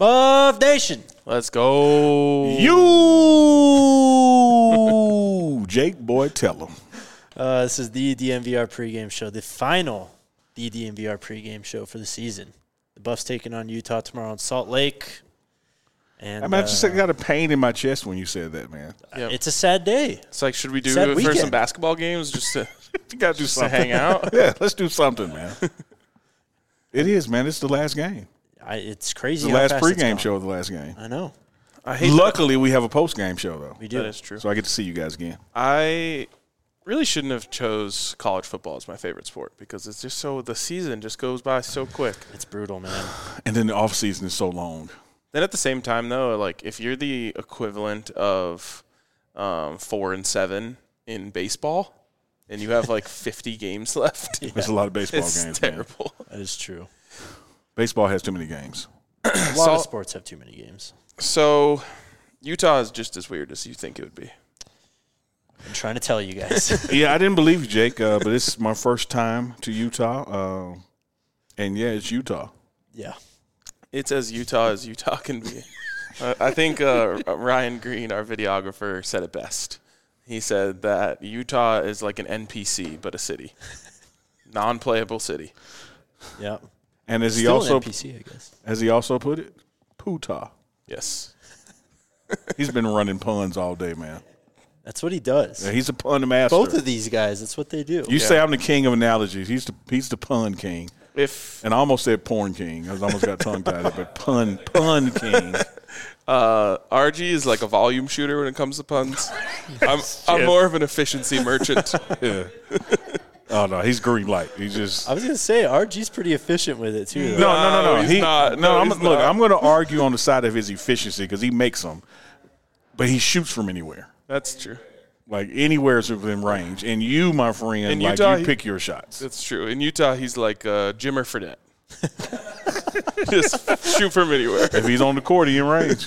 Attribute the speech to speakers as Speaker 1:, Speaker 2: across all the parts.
Speaker 1: Buff Nation.
Speaker 2: Let's go.
Speaker 3: You, Jake Boy, tell him.
Speaker 1: This is the DNVR pregame show, the final DNVR pregame show for the season. The Buffs taking on Utah tomorrow in Salt Lake. And
Speaker 3: I just got a pain in my chest when you said that, man.
Speaker 2: Yep.
Speaker 1: It's a sad day.
Speaker 2: It's like, should we do
Speaker 1: Sad
Speaker 2: it for
Speaker 1: weekend.
Speaker 2: some basketball games just to,
Speaker 3: You got to do
Speaker 2: just to
Speaker 3: something.
Speaker 2: hang out?
Speaker 3: Yeah, let's do something, man. It is, man. It's the last game.
Speaker 1: It's crazy.
Speaker 3: The
Speaker 1: how
Speaker 3: last
Speaker 1: fast it's
Speaker 3: pregame
Speaker 1: gone.
Speaker 3: show of the last game.
Speaker 1: I know.
Speaker 2: I hate
Speaker 3: Luckily, we have a post-game show, though.
Speaker 1: We do.
Speaker 2: That is true.
Speaker 3: So I get to see you guys again.
Speaker 2: I really shouldn't have chose college football as my favorite sport because it's just the season just goes by so quick.
Speaker 1: It's brutal, man.
Speaker 3: And then the off-season is so long.
Speaker 2: Then at the same time, though, like if you're the equivalent of 4-7 in baseball and you have like 50 games left,
Speaker 3: There's a lot of baseball
Speaker 2: it's
Speaker 3: games, man.
Speaker 2: terrible.
Speaker 1: That is true.
Speaker 3: Baseball has too many games.
Speaker 1: A lot of sports have too many games.
Speaker 2: So Utah is just as weird as you think it would be.
Speaker 1: I'm trying to tell you guys.
Speaker 3: Yeah, I didn't believe you, Jake, but it's my first time to Utah. And, yeah, it's Utah.
Speaker 1: Yeah.
Speaker 2: It's as Utah can be. I think Ryan Green, our videographer, said it best. He said that Utah is like an NPC, but a city. Non-playable city.
Speaker 1: Yeah.
Speaker 3: And as he
Speaker 1: Still
Speaker 3: also
Speaker 1: an NPC, I guess.
Speaker 3: as he also put it, Pootah.
Speaker 2: Yes.
Speaker 3: He's been running puns all day, man.
Speaker 1: That's what he does.
Speaker 3: Yeah, he's a pun master.
Speaker 1: Both of these guys, that's what they do.
Speaker 3: You say I'm the king of analogies. He's the pun king. And I almost said porn king. I almost got tongue-tied, but pun king.
Speaker 2: RG is like a volume shooter when it comes to puns. I'm more of an efficiency merchant.
Speaker 3: Yeah. Oh, no, he's green light. He's just –
Speaker 1: I was going to say, RG's pretty efficient with it, too. Though.
Speaker 3: No.
Speaker 2: He's not. No, he's not.
Speaker 3: I'm going to argue on the side of his efficiency because he makes them, but he shoots from anywhere.
Speaker 2: That's true.
Speaker 3: Like anywhere is within range. And you, my friend,
Speaker 2: In
Speaker 3: like
Speaker 2: Utah,
Speaker 3: you pick your shots.
Speaker 2: That's true. In Utah, he's like Jimmer Fredette. Just shoot from anywhere.
Speaker 3: If he's on the court, he in range.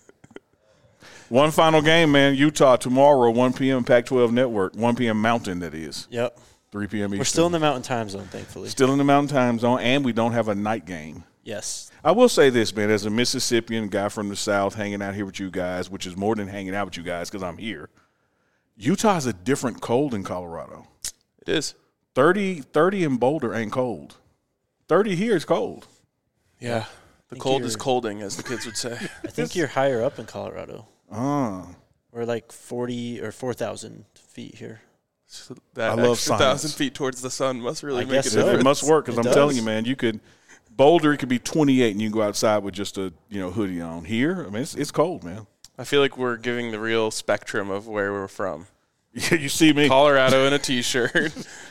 Speaker 3: One final game, man. Utah tomorrow, 1 p.m. Pac-12 Network. 1 p.m. Mountain, that is.
Speaker 1: Yep.
Speaker 3: 3 p.m. Eastern.
Speaker 1: We're still in the Mountain Time Zone, thankfully.
Speaker 3: Still in the Mountain Time Zone, and we don't have a night game.
Speaker 1: Yes.
Speaker 3: I will say this, man. As a Mississippian guy from the South hanging out here with you guys, which is more than hanging out with you guys because I'm here, Utah is a different cold than Colorado.
Speaker 2: It is.
Speaker 3: 30 in Boulder ain't cold. 30 here is cold.
Speaker 2: Yeah. The cold is colding, as the kids would say.
Speaker 1: I think you're higher up in Colorado.
Speaker 3: Ah.
Speaker 1: We're like 40 or 4,000 feet here.
Speaker 2: So that
Speaker 3: I love
Speaker 2: extra
Speaker 3: science.
Speaker 2: 1,000 feet towards the sun must really
Speaker 1: I
Speaker 2: make a
Speaker 1: guess so.
Speaker 2: difference.
Speaker 3: It must work because
Speaker 1: It
Speaker 3: I'm telling
Speaker 1: does.
Speaker 3: you, man, Boulder, it could be 28 and you can go outside with just a hoodie on. Here, I mean, it's cold, man.
Speaker 2: I feel like we're giving the real spectrum of where we're from.
Speaker 3: Yeah, you see me.
Speaker 2: Colorado in a T-shirt,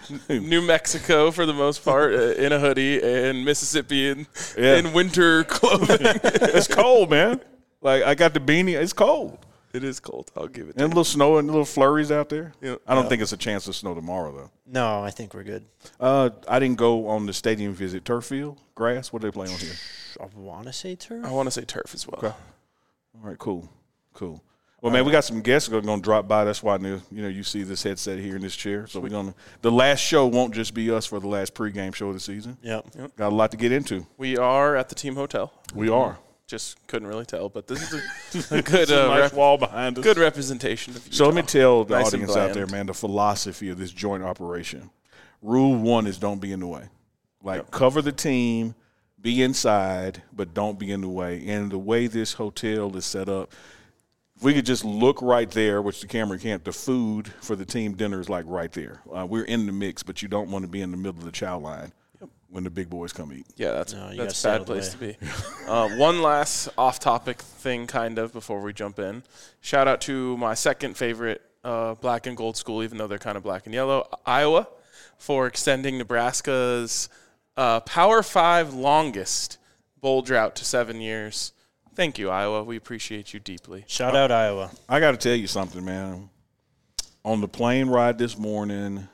Speaker 2: New Mexico for the most part in a hoodie, and Mississippi in winter clothing.
Speaker 3: It's cold, man. Like, I got the beanie. It's cold.
Speaker 2: It is cold. I'll give it to
Speaker 3: And a little snow and little flurries out there.
Speaker 2: Yeah.
Speaker 3: I don't think it's a chance of snow tomorrow, though.
Speaker 1: No, I think we're good.
Speaker 3: I didn't go on the stadium visit. Turf field? Grass? What do they play on here?
Speaker 1: I want to say turf.
Speaker 2: I want to say turf as well.
Speaker 3: Okay. All right, cool. Well, man, we got some guests that are going to drop by. That's why you see this headset here in this chair. So the last show won't just be us for the last pregame show of the season.
Speaker 1: Yep.
Speaker 3: Got a lot to get into.
Speaker 2: We are at the team hotel.
Speaker 3: We are.
Speaker 2: Just couldn't really tell, but this is a good
Speaker 3: nice wall behind us.
Speaker 2: good representation of Utah.
Speaker 3: So let me tell the
Speaker 2: Nice and
Speaker 3: audience out there,
Speaker 2: bland.
Speaker 3: man, the philosophy of this joint operation. Rule 1 is don't be in the way. Cover the team, be inside, but don't be in the way. And the way this hotel is set up, if we could just look right there, which the camera can't, the food for the team dinner is like right there. We're in the mix, but you don't want to be in the middle of the chow line when the big boys come eat.
Speaker 2: Yeah, that's
Speaker 1: No, you
Speaker 2: a
Speaker 1: gotta
Speaker 2: bad place to be. One last off-topic thing, kind of, before we jump in. Shout out to my second favorite black and gold school, even though they're kind of black and yellow, Iowa, for extending Nebraska's Power 5 longest bowl drought to 7 years. Thank you, Iowa. We appreciate you deeply.
Speaker 1: Shout out Iowa.
Speaker 3: I got to tell you something, man. On the plane ride this morning,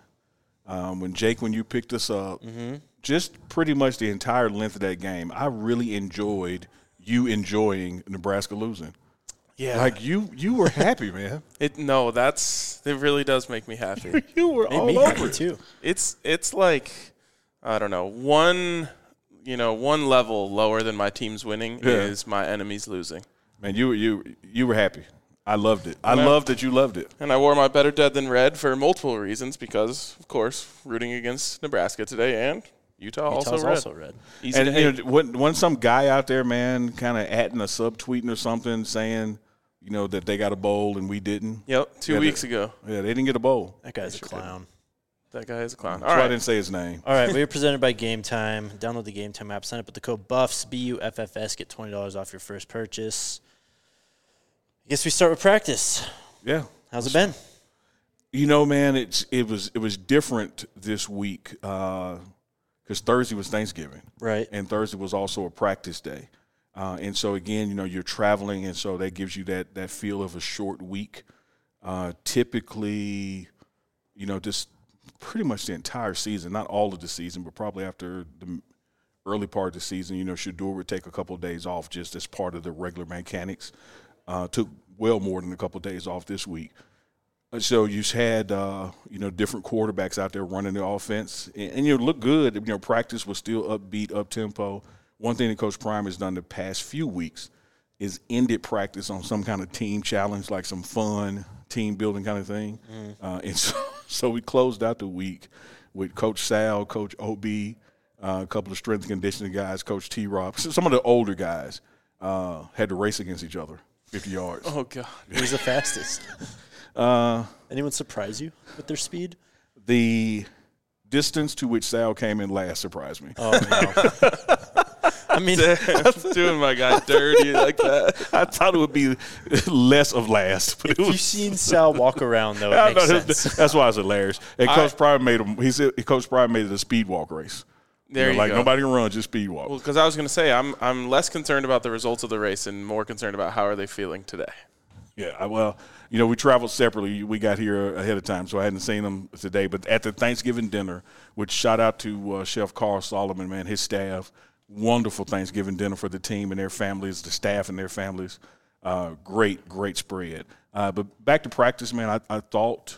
Speaker 3: when you picked us up, just pretty much the entire length of that game, I really enjoyed you enjoying Nebraska losing.
Speaker 2: Yeah.
Speaker 3: Like, you were happy, man.
Speaker 2: It really does make me happy.
Speaker 3: You were
Speaker 1: Made
Speaker 3: all
Speaker 1: me
Speaker 3: over
Speaker 1: happy
Speaker 3: it.
Speaker 1: too.
Speaker 2: It's like, I don't know, one one level lower than my team's winning is my enemies losing.
Speaker 3: Man, you were happy. I loved it. I loved that you loved it.
Speaker 2: And I wore my better dead than red for multiple reasons because, of course, rooting against Nebraska today and Utah's also red.
Speaker 3: Easy to hate. Wasn't some guy out there, man, kind of adding a subtweeting or something saying, that they got a bowl and we didn't?
Speaker 2: Yep, 2 weeks ago.
Speaker 3: Yeah, they didn't get a bowl.
Speaker 1: That guy's a clown.
Speaker 2: That guy is a clown.
Speaker 3: That's why I didn't say his name.
Speaker 1: All right, we are presented by Game Time. Download the Game Time app. Sign up with the code BUFFS, BUFFS. Get $20 off your first purchase. I guess we start with practice.
Speaker 3: Yeah.
Speaker 1: How's it been?
Speaker 3: Man, it was different this week because Thursday was Thanksgiving.
Speaker 1: Right.
Speaker 3: And Thursday was also a practice day. And so, again, you're traveling, and so that gives you that feel of a short week. Typically, just pretty much the entire season, not all of the season, but probably after the early part of the season, Shedeur would take a couple of days off just as part of the regular mechanics. Took well more than a couple of days off this week. So you had, different quarterbacks out there running the offense. And look good. Practice was still upbeat, up-tempo. One thing that Coach Prime has done the past few weeks is ended practice on some kind of team challenge, like some fun team-building kind of thing. And so we closed out the week with Coach Sal, Coach OB, a couple of strength and conditioning guys, Coach T-Rob. Some of the older guys had to race against each other. 50 yards.
Speaker 2: Oh, God.
Speaker 1: Who's the fastest? Anyone surprise you with their speed?
Speaker 3: The distance to which Sal came in last surprised me.
Speaker 1: Oh, no. I mean,
Speaker 2: doing my guy dirty like that.
Speaker 3: I thought it would be less of last. But
Speaker 1: if you've seen Sal walk around, though, it makes sense.
Speaker 3: That's why it's hilarious. And Coach Prime made him. He said Coach Prime made it a speed walk race.
Speaker 2: There you
Speaker 3: go. Nobody can run, just speed walk.
Speaker 2: Well, because I was going to say, I'm less concerned about the results of the race and more concerned about how are they feeling today.
Speaker 3: Yeah, we traveled separately. We got here ahead of time, so I hadn't seen them today. But at the Thanksgiving dinner, which shout out to Chef Carl Solomon, man, his staff, wonderful Thanksgiving dinner for the team and their families, the staff and their families. Great spread. But back to practice, man, I thought,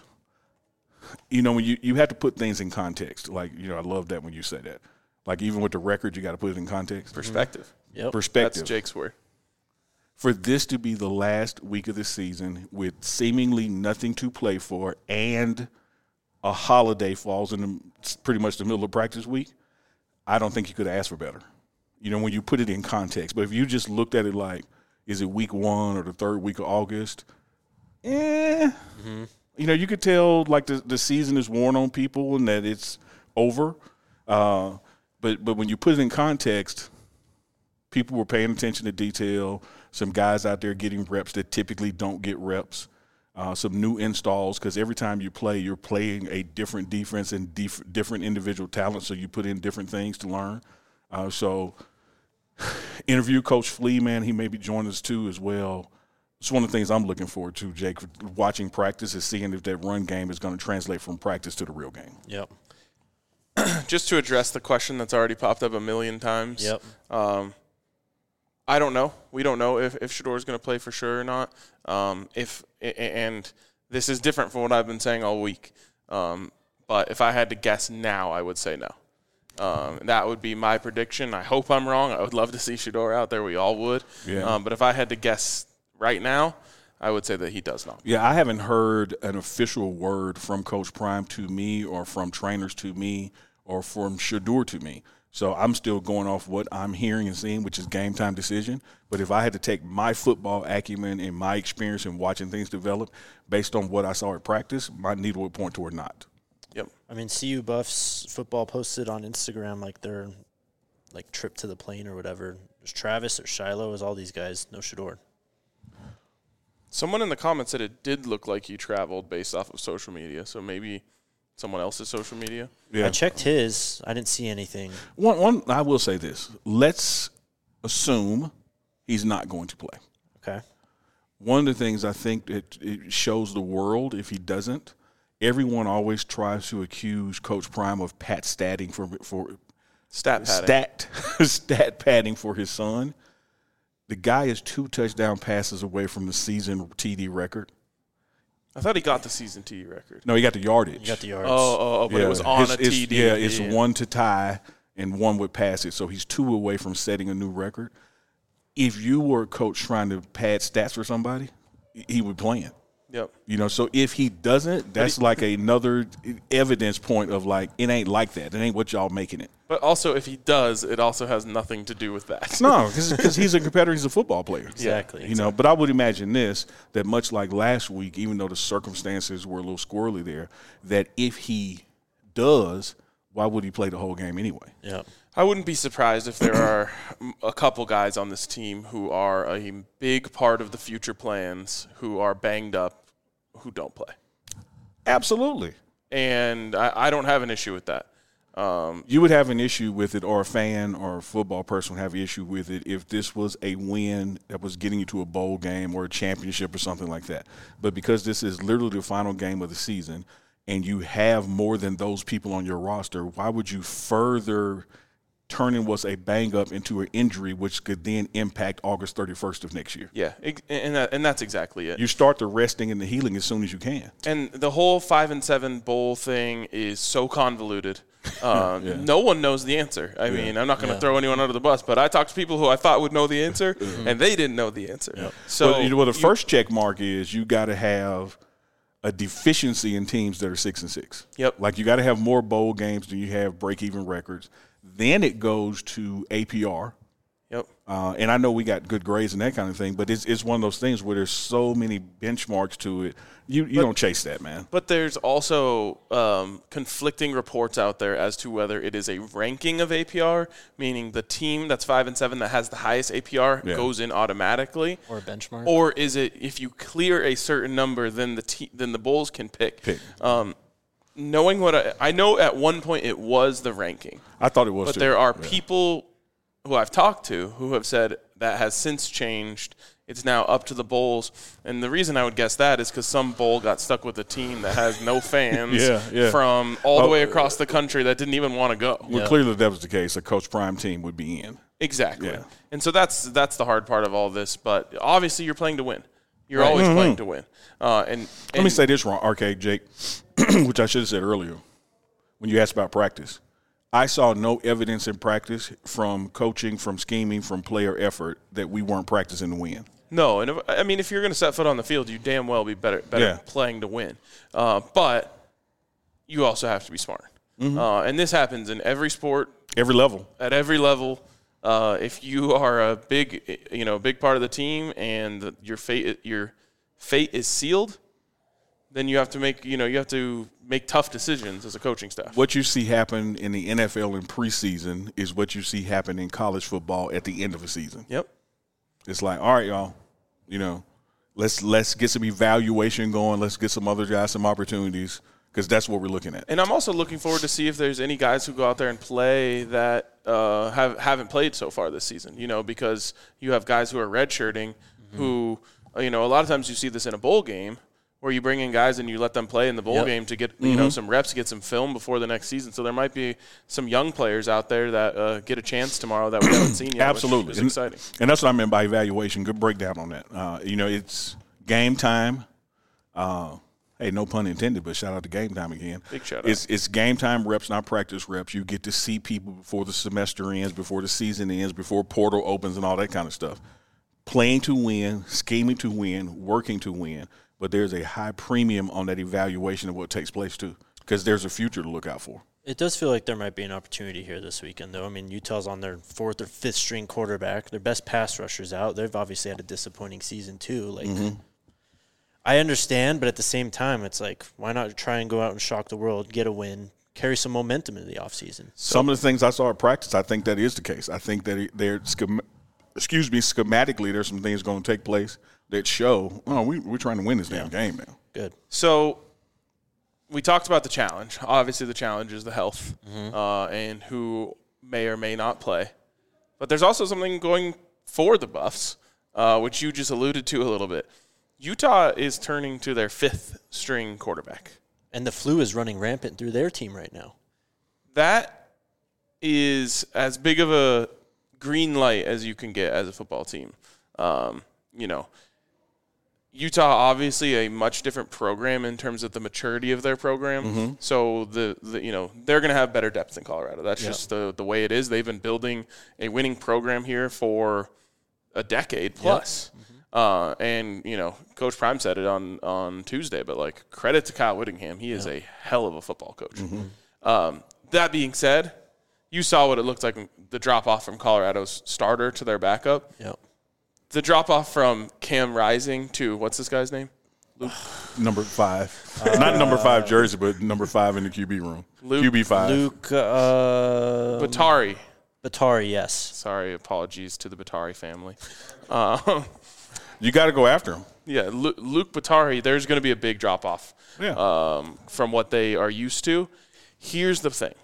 Speaker 3: when you have to put things in context. Like, I love that when you say that. Like, even with the record, you got to put it in context.
Speaker 2: Perspective.
Speaker 1: Yep.
Speaker 3: Perspective.
Speaker 2: That's Jake's word.
Speaker 3: For this to be the last week of the season with seemingly nothing to play for and a holiday falls in pretty much the middle of practice week, I don't think you could ask for better. When you put it in context. But if you just looked at it like, is it week 1 or the third week of August? You could tell, like, the season is worn on people and that it's over. But when you put it in context, people were paying attention to detail. Some guys out there getting reps that typically don't get reps. Some new installs, because every time you play, you're playing a different defense and different individual talent, so you put in different things to learn. So interview Coach Flea, man, he may be joining us too as well. It's one of the things I'm looking forward to, Jake, watching practice is seeing if that run game is going to translate from practice to the real game.
Speaker 1: Yep.
Speaker 2: Just to address the question that's already popped up a million times.
Speaker 1: Yep.
Speaker 2: I don't know. We don't know if Shedeur is going to play for sure or not. And this is different from what I've been saying all week. But if I had to guess now, I would say no. That would be my prediction. I hope I'm wrong. I would love to see Shedeur out there. We all would.
Speaker 3: Yeah.
Speaker 2: But if I had to guess right now, I would say that he does not.
Speaker 3: Yeah, I haven't heard an official word from Coach Prime to me or from trainers to me or from Shedeur to me. So I'm still going off what I'm hearing and seeing, which is game time decision. But if I had to take my football acumen and my experience in watching things develop based on what I saw at practice, my needle would point toward not.
Speaker 2: Yep.
Speaker 1: I mean, CU Buffs football posted on Instagram like their trip to the plane or whatever. There's Travis, there's Shiloh, there's all these guys. No Shedeur.
Speaker 2: Someone in the comments said it did look like he traveled based off of social media, so maybe someone else's social media.
Speaker 3: Yeah.
Speaker 1: I checked his. I didn't see anything.
Speaker 3: One, I will say this. Let's assume he's not going to play.
Speaker 1: Okay.
Speaker 3: One of the things I think it shows the world if he doesn't, everyone always tries to accuse Coach Prime of statting for
Speaker 2: stat padding.
Speaker 3: Stat padding for his son. The guy is 2 touchdown passes away from the season TD record.
Speaker 2: I thought he got the season TD record.
Speaker 3: No, he got the yardage.
Speaker 1: You got the yards.
Speaker 2: But it was on a TD.
Speaker 3: Yeah, it's 1 to tie, and one would pass it. So he's 2 away from setting a new record. If you were a coach trying to pad stats for somebody, he would play it.
Speaker 2: Yep.
Speaker 3: You know, so if he doesn't, that's like another evidence point of like, it ain't like that. It ain't what y'all making it.
Speaker 2: But also, if he does, it also has nothing to do with that.
Speaker 3: No, because he's a competitor. He's a football player.
Speaker 1: Exactly.
Speaker 3: You know, but I would imagine that much like last week, even though the circumstances were a little squirrely there, that if he does, why would he play the whole game anyway?
Speaker 1: Yeah.
Speaker 2: I wouldn't be surprised if there are a couple guys on this team who are a big part of the future plans who are banged up, who don't play.
Speaker 3: Absolutely.
Speaker 2: And I don't have an issue with that.
Speaker 3: You would have an issue with it, or a fan or a football person would have an issue with it if this was a win that was getting you to a bowl game or a championship or something like that. But because this is literally the final game of the season and you have more than those people on your roster, why would you further turning what's a bang up into an injury, which could then impact August 31st of next year?
Speaker 2: Yeah, and that's exactly it.
Speaker 3: You start the resting and the healing as soon as you can.
Speaker 2: And the whole 5-7 bowl thing is so convoluted. No one knows the answer. I mean, I'm not going to throw anyone under the bus, but I talked to people who I thought would know the answer, and they didn't know the answer.
Speaker 3: Yeah.
Speaker 2: So,
Speaker 3: the first check mark is you got to have a deficiency in teams that are 6-6.
Speaker 2: Yep.
Speaker 3: Like you got to have more bowl games than you have break-even records. Then it goes to APR.
Speaker 2: Yep.
Speaker 3: And I know we got good grades and that kind of thing, but it's one of those things where there's so many benchmarks to it. You don't chase that, man.
Speaker 2: But there's also conflicting reports out there as to whether it is a ranking of APR, meaning the team that's 5-7 that has the highest APR goes in automatically,
Speaker 1: Or a benchmark.
Speaker 2: or is it if you clear a certain number, then the Bulls can pick. Knowing what I know, at one point it was the ranking.
Speaker 3: I thought it was,
Speaker 2: but
Speaker 3: too.
Speaker 2: There are people who I've talked to who have said that has since changed. It's now up to the Bulls. And the reason I would guess that is because some Bowl got stuck with a team that has no fans from all the way across the country that didn't even want to go.
Speaker 3: Well, clearly that was the case. A Coach Prime team would be in.
Speaker 2: Exactly.
Speaker 3: Yeah.
Speaker 2: And so that's the hard part of all this. But obviously you're playing to win. You're always playing to win. And
Speaker 3: let me say this wrong, Arcade Jake, which I should have said earlier when you asked about practice. I saw no evidence in practice from coaching, from scheming, from player effort that we weren't practicing to win.
Speaker 2: No, and if you're going to set foot on the field, you damn well be better playing to win. But you also have to be smart. And this happens in every sport,
Speaker 3: every level,
Speaker 2: at every level. If you are a big part of the team and your fate is sealed, then you have to make tough decisions as a coaching staff.
Speaker 3: What you see happen in the NFL in preseason is what you see happen in college football at the end of a season.
Speaker 2: Yep.
Speaker 3: It's like, all right, y'all, let's get some evaluation going. Let's get some other guys some opportunities, because that's what we're looking at.
Speaker 2: And I'm also looking forward to see if there's any guys who go out there and play that haven't played so far this season, because you have guys who are redshirting who, a lot of times you see this in a bowl game where you bring in guys and you let them play in the bowl game to get some reps, get some film before the next season. So there might be some young players out there that get a chance tomorrow that we haven't seen yet.
Speaker 3: Absolutely.
Speaker 2: Which is exciting.
Speaker 3: And that's what I meant by evaluation. Good breakdown on that. It's game time. Hey, no pun intended, but shout out to game time again.
Speaker 2: Big shout out.
Speaker 3: It's game time reps, not practice reps. You get to see people before the semester ends, before the season ends, before portal opens and all that kind of stuff. Playing to win, scheming to win, working to win. But there's a high premium on that evaluation of what takes place, too, because there's a future to look out for.
Speaker 1: It does feel like there might be an opportunity here this weekend, though. I mean, Utah's on their 4th or 5th string quarterback. Their best pass rushers out. They've obviously had a disappointing season, too. I understand, but at the same time, it's like, why not try and go out and shock the world, get a win, carry some momentum into the offseason?
Speaker 3: Some of the things I saw at practice, I think that is the case. I think that schematically, there's some things going to take place that show, we're trying to win this damn game now.
Speaker 1: Good.
Speaker 2: So we talked about the challenge. Obviously, the challenge is the health and who may or may not play. But there's also something going for the Buffs, which you just alluded to a little bit. Utah is turning to their 5th string quarterback.
Speaker 1: And the flu is running rampant through their team right now.
Speaker 2: That is as big of a green light as you can get as a football team. Utah, obviously a much different program in terms of the maturity of their program. So they're going to have better depth than Colorado. That's just the way it is. They've been building a winning program here for a decade plus. And Coach Prime said it on Tuesday, but like, credit to Kyle Whittingham. He is a hell of a football coach. That being said, you saw what it looked like, the drop off from Colorado's starter to their backup. The drop-off from Cam Rising to, what's this guy's name? Luke.
Speaker 3: Number 5. Not number 5 jersey, but number 5 in the QB room. QB5.
Speaker 1: Luke
Speaker 2: Batari.
Speaker 1: Batari, yes.
Speaker 2: Sorry, apologies to the Batari family.
Speaker 3: You got to go after him.
Speaker 2: Yeah, Luke Batari, there's going to be a big drop-off from what they are used to. Here's the thing.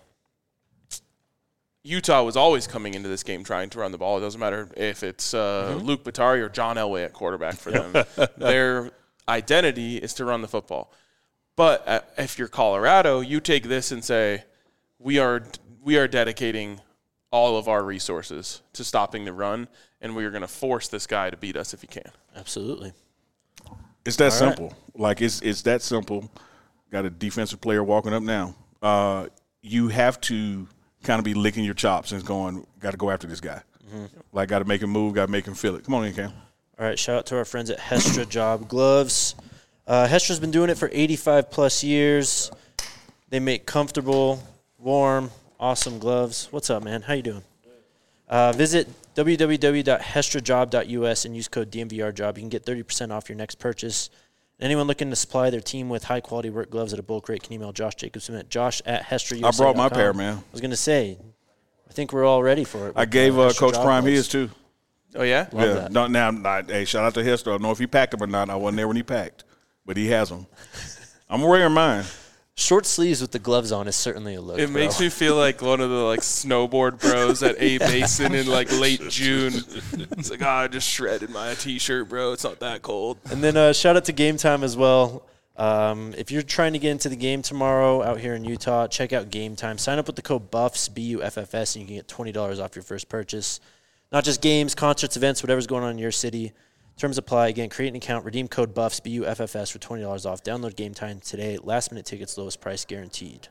Speaker 2: Utah was always coming into this game trying to run the ball. It doesn't matter if it's Luke Batari or John Elway at quarterback for them. Their identity is to run the football. But if you're Colorado, you take this and say, we are dedicating all of our resources to stopping the run, and we are going to force this guy to beat us if he can.
Speaker 1: Absolutely.
Speaker 3: It's that simple. Like, it's that simple. Got a defensive player walking up now. You have to kind of be licking your chops and going, got to go after this guy. Like, got to make him move, got to make him feel it. Come on in, Cam.
Speaker 1: All right, shout out to our friends at Hestra Job Gloves. Hestra's been doing it for 85-plus years. They make comfortable, warm, awesome gloves. What's up, man? How you doing? Visit www.hestrajob.us and use code DMVRJOB. You can get 30% off your next purchase. Anyone looking to supply their team with high-quality work gloves at a bulk rate can email Josh Jacobson at josh@hestrausa.com.
Speaker 3: I brought my pair, man.
Speaker 1: I was going to say, I think we're all ready for it.
Speaker 3: I gave Coach Prime his, too.
Speaker 2: Oh, yeah?
Speaker 1: Love that.
Speaker 3: Hey, shout out to Hester. I don't know if he packed them or not. I wasn't there when he packed, but he has them. I'm wearing mine.
Speaker 1: Short sleeves with the gloves on is certainly a look.
Speaker 2: It makes me feel like one of the snowboard bros at A Basin in late June. It's like, I just shredded my T-shirt, bro. It's not that cold.
Speaker 1: And then shout out to Game Time as well. If you're trying to get into the game tomorrow out here in Utah, check out Game Time. Sign up with the code BUFFS, BUFFS, and you can get $20 off your first purchase. Not just games, concerts, events, whatever's going on in your city. Terms apply. Again, create an account, redeem code BUFFS, BUFFS for $20 off. Download Game Time today. Last-minute tickets, lowest price guaranteed.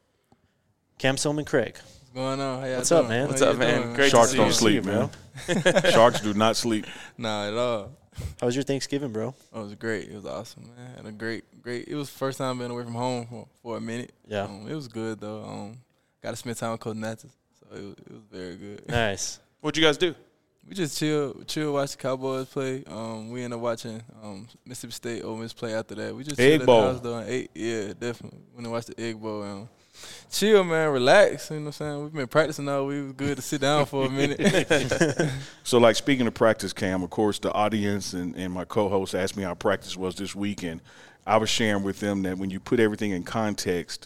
Speaker 1: Cam Silman, Craig.
Speaker 4: What's going on? How y'all
Speaker 1: What's
Speaker 4: doing?
Speaker 1: up, man?
Speaker 2: What's up, man? Great
Speaker 3: Sharks
Speaker 2: to see
Speaker 3: don't
Speaker 2: you.
Speaker 3: sleep, man. Sharks do not sleep.
Speaker 4: Nah, at all.
Speaker 1: How was your Thanksgiving, bro?
Speaker 4: Oh, it was great. It was awesome, man. Had a great. It was the first time being away from home for a minute.
Speaker 1: Yeah.
Speaker 4: It was good, though. Got to spend time with Coach Natchez, so it was very good.
Speaker 1: Nice.
Speaker 2: What'd you guys do?
Speaker 4: We just chill, watch the Cowboys play. We ended up watching Mississippi State, Ole Miss play after that. We just
Speaker 3: Egg
Speaker 4: chilled
Speaker 3: Bowl.
Speaker 4: at the house, though. And ate, yeah, definitely. Went and watched the Egg Bowl. Chill, man, relax. You know what I'm saying? We've been practicing all week. It was good to sit down for a minute.
Speaker 3: So, like, speaking of practice, Cam, of course, the audience and my co-host asked me how practice was this week, and I was sharing with them that when you put everything in context,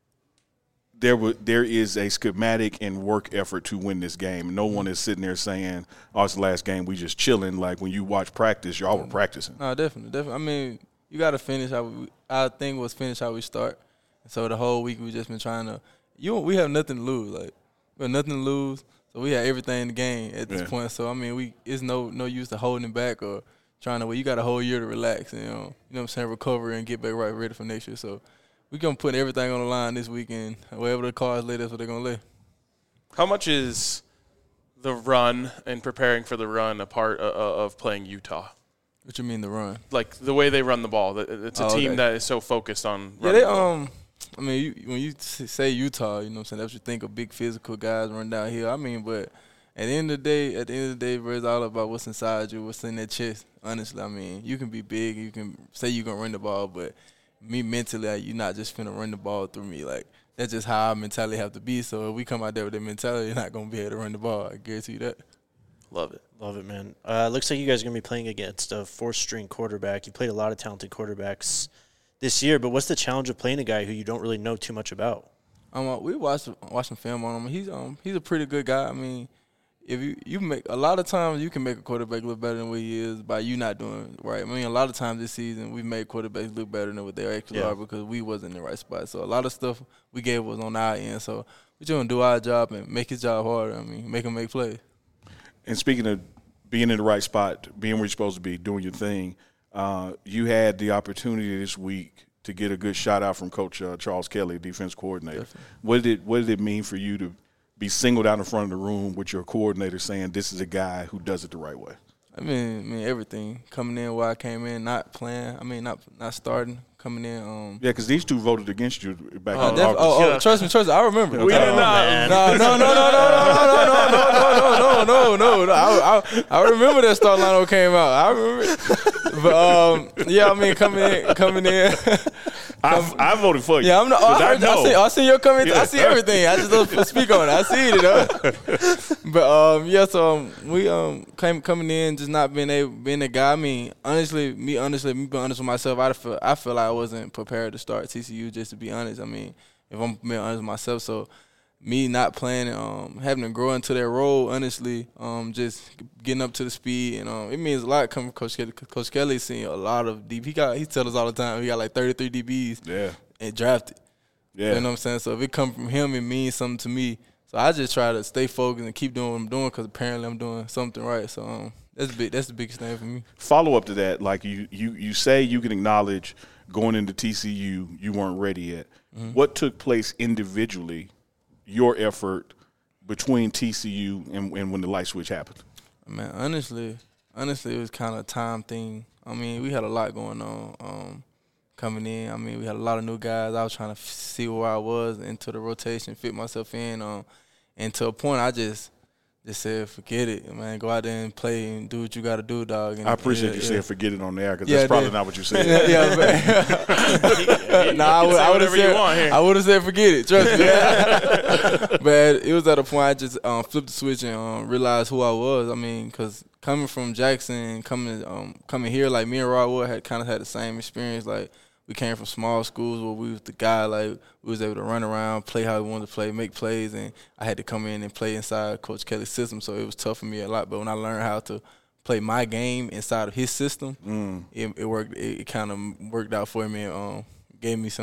Speaker 3: there is a schematic and work effort to win this game. No one is sitting there saying, oh, it's the last game, we just chilling. Like, when you watch practice, y'all were practicing.
Speaker 4: No, definitely. I mean, you got to finish our thing was finish how we start. So the whole week we just been trying to we have nothing to lose. Like, we have nothing to lose. So we have everything in the game at this point. So, I mean, it's no use to holding it back or trying to you got a whole year to relax and, you know what I'm saying, recover and get back right ready for next year. So we're going to put everything on the line this weekend. Wherever the cards lay, that's what they're going to lay.
Speaker 2: How much is the run and preparing for the run a part of playing Utah?
Speaker 4: What you mean the run?
Speaker 2: Like the way they run the ball. It's a team that is so focused on running the ball.
Speaker 4: I mean, when you say Utah, you know what I'm saying, that's what you think of big physical guys run downhill. I mean, but at the end of the day, bro, it's all about what's inside you, what's in that chest. Honestly, I mean, you can be big, you can say you're going to run the ball, but me mentally, you're not just finna run the ball through me. Like, that's just how our mentality have to be. So if we come out there with that mentality, you're not going to be able to run the ball. I guarantee you that.
Speaker 2: Love it.
Speaker 1: Love it, man. Looks like you guys are going to be playing against a fourth-string quarterback. You played a lot of talented quarterbacks this year, but what's the challenge of playing a guy who you don't really know too much about?
Speaker 4: We watched some film on him. He's a pretty good guy. I mean, if you make a lot of times you can make a quarterback look better than what he is by you not doing right. I mean, a lot of times this season we made quarterbacks look better than what they actually are because we wasn't in the right spot. So a lot of stuff we gave was on our end. So we're just gonna do our job and make his job harder. I mean, make him make plays.
Speaker 3: And speaking of being in the right spot, being where you're supposed to be, doing your thing, You had the opportunity this week to get a good shout out from Coach Charles Kelly, defense coordinator.
Speaker 4: Definitely.
Speaker 3: What did it mean for you to be singled out in front of the room with your coordinator saying this is a guy who does it the right way?
Speaker 4: I mean everything. Coming in where I came in, not playing. I mean, not starting. Coming in.
Speaker 3: Yeah, because these two voted against you back in August.
Speaker 4: Trust me. I remember.
Speaker 2: We did not.
Speaker 4: No. I remember that start lineup came out. I remember it. But yeah, I mean coming in.
Speaker 3: I voted for you.
Speaker 4: Yeah, I see your comments.
Speaker 3: Yeah.
Speaker 4: I see everything. I just don't speak on it. I see it. But yeah, so we coming in, just not being a guy. I mean, honestly, me being honest with myself, I feel like I wasn't prepared to start TCU. Just to be honest, I mean, if I'm being honest with myself, so me not playing, having to grow into that role, honestly, just getting up to the speed, and it means a lot coming from Coach Kelly. Coach Kelly's seen a lot of DB. He tells us all the time he got like 33 DBs and drafted.
Speaker 3: Yeah.
Speaker 4: You know what I'm saying? So if it comes from him, it means something to me. So I just try to stay focused and keep doing what I'm doing because apparently I'm doing something right. So that's the biggest thing for me.
Speaker 3: Follow up to that, like you say you can acknowledge going into TCU you weren't ready yet. Mm-hmm. What took place individually, your effort between TCU and when the light switch happened?
Speaker 4: Man, honestly, it was kind of a time thing. I mean, we had a lot going on coming in. I mean, we had a lot of new guys. I was trying to see where I was into the rotation, fit myself in. And to a point, I just said, forget it, man. Go out there and play and do what you got to do, dog. And,
Speaker 3: I appreciate you saying forget it on the air because
Speaker 4: Yeah,
Speaker 3: that's probably
Speaker 4: then-
Speaker 3: not what you said.
Speaker 4: I would have said, I would have said forget it. Trust me. But it was at a point I just flipped the switch and realized who I was. I mean, because coming from Jackson, coming here, like me and Rod Wood had kind of had the same experience. Like we came from small schools where we was the guy, like we was able to run around, play how we wanted to play, make plays, and I had to come in and play inside Coach Kelly's system. So it was tough for me a lot. But when I learned how to play my game inside of his system, it worked. It kind of worked out for me and gave me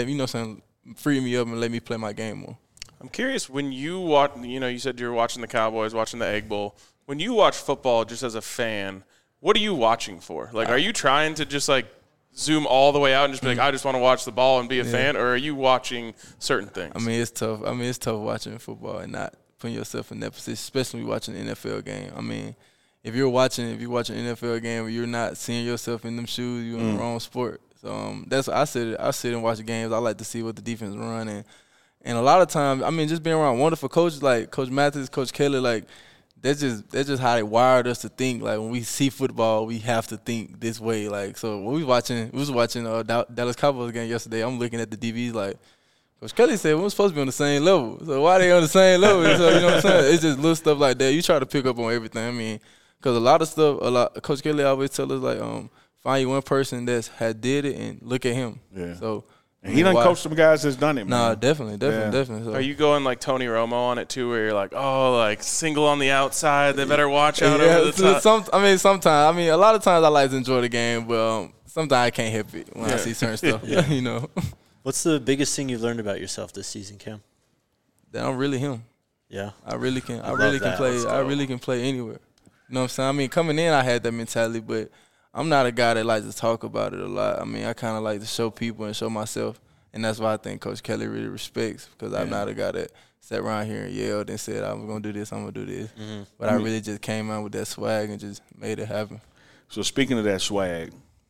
Speaker 4: freed me up and let me play my game more.
Speaker 2: I'm curious, when you watch, you said you were watching the Cowboys, watching the Egg Bowl. When you watch football just as a fan, what are you watching for? Like, are you trying to just, like, zoom all the way out and just be like, I just want to watch the ball and be a fan, or are you watching certain things?
Speaker 4: I mean, it's tough. It's tough watching football and not putting yourself in that position, especially when you're watching an NFL game. I mean, if you're watching an NFL game where you're not seeing yourself in them shoes, you're in the wrong sport. So that's what I sit and watch the games. I like to see what the defense run, and a lot of times, I mean, just being around wonderful coaches like Coach Mathis, Coach Kelly, like that's just how they wired us to think. Like when we see football, we have to think this way. Like so, when we was watching Dallas Cowboys game yesterday. I'm looking at the DBs like Coach Kelly said we were supposed to be on the same level. So why they on the same level? So you know what I'm saying? It's just little stuff like that. You try to pick up on everything. I mean, because a lot of stuff, Coach Kelly always tell us like find you one person that's had did it and look at him.
Speaker 3: Yeah.
Speaker 4: So.
Speaker 3: And he done coached some guys that's done it, man.
Speaker 4: Nah, definitely. So.
Speaker 2: Are you going like Tony Romo on it too, where you're like, single on the outside, they better watch out over the top?
Speaker 4: Sometimes. I mean, a lot of times I like to enjoy the game, but sometimes I can't help it when I see certain stuff. You know.
Speaker 1: What's the biggest thing you've learned about yourself this season, Cam?
Speaker 4: That I'm really him.
Speaker 1: Yeah.
Speaker 4: I really can
Speaker 1: that.
Speaker 4: play.
Speaker 1: Let's go.
Speaker 4: I really can play anywhere. You know what I'm saying? I mean, coming in, I had that mentality, but I'm not a guy that likes to talk about it a lot. I mean, I kind of like to show people and show myself, and that's why I think Coach Kelly really respects, because I'm not a guy that sat around here and yelled and said, I'm going to do this, I'm going to do this. Mm-hmm. But I really just came out with that swag and just made it happen.
Speaker 3: So speaking of that swag,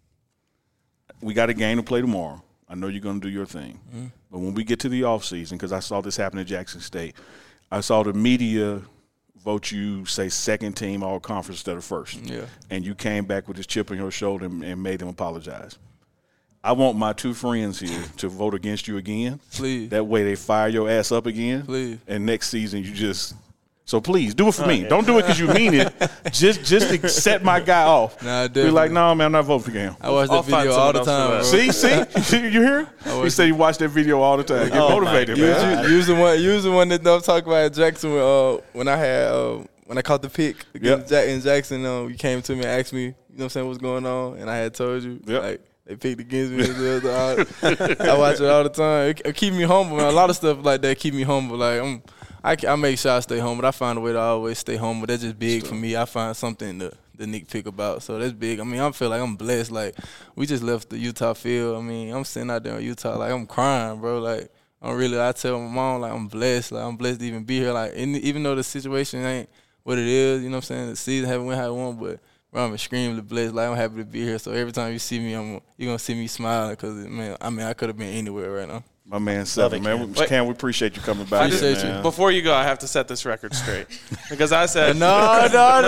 Speaker 3: we got a game to play tomorrow. I know you're going to do your thing. Mm-hmm. But when we get to the offseason, because I saw this happen at Jackson State, I saw the media vote you, say, second team all-conference instead of first. Yeah. And you came back with this chip on your shoulder and made them apologize. I want my two friends here to vote against you again.
Speaker 4: Please.
Speaker 3: That way they fire your ass up again.
Speaker 4: Please.
Speaker 3: And next season you just – so please, do it for me. Don't do it because you mean it. Just to set my guy off.
Speaker 4: Nah,
Speaker 3: be like, no, man, I'm not voting for him.
Speaker 4: I watch that video all the time, bro.
Speaker 3: See? You hear? He said you watch that video all the time. Get motivated, man.
Speaker 4: Use the one that I'm talking about at Jackson when I had when I caught the pick against in Jackson. You came to me and asked me, you know what I'm saying, what's going on, and I had told you, like, they picked against me. I watch it all the time. It keep me humble, man. A lot of stuff like that keep me humble. Like I make sure I stay humble. I find a way to always stay humble. That's just big for me. I find something the Nick pick about. So that's big. I mean, I feel like I'm blessed. Like, we just left the Utah field. I mean, I'm sitting out there in Utah, like, I'm crying, bro. Like, I tell my mom, like, I'm blessed. Like, I'm blessed to even be here. Like, even though the situation ain't what it is, you know what I'm saying? The season haven't went how it won, but bro, I'm extremely blessed. Like, I'm happy to be here. So every time you see me, you're going to see me smiling because, man, I could have been anywhere right now.
Speaker 3: My man, Seven, man. Cam, we appreciate you coming by.
Speaker 4: Appreciate you.
Speaker 2: Before you go, I have to set this record straight because I said
Speaker 4: no.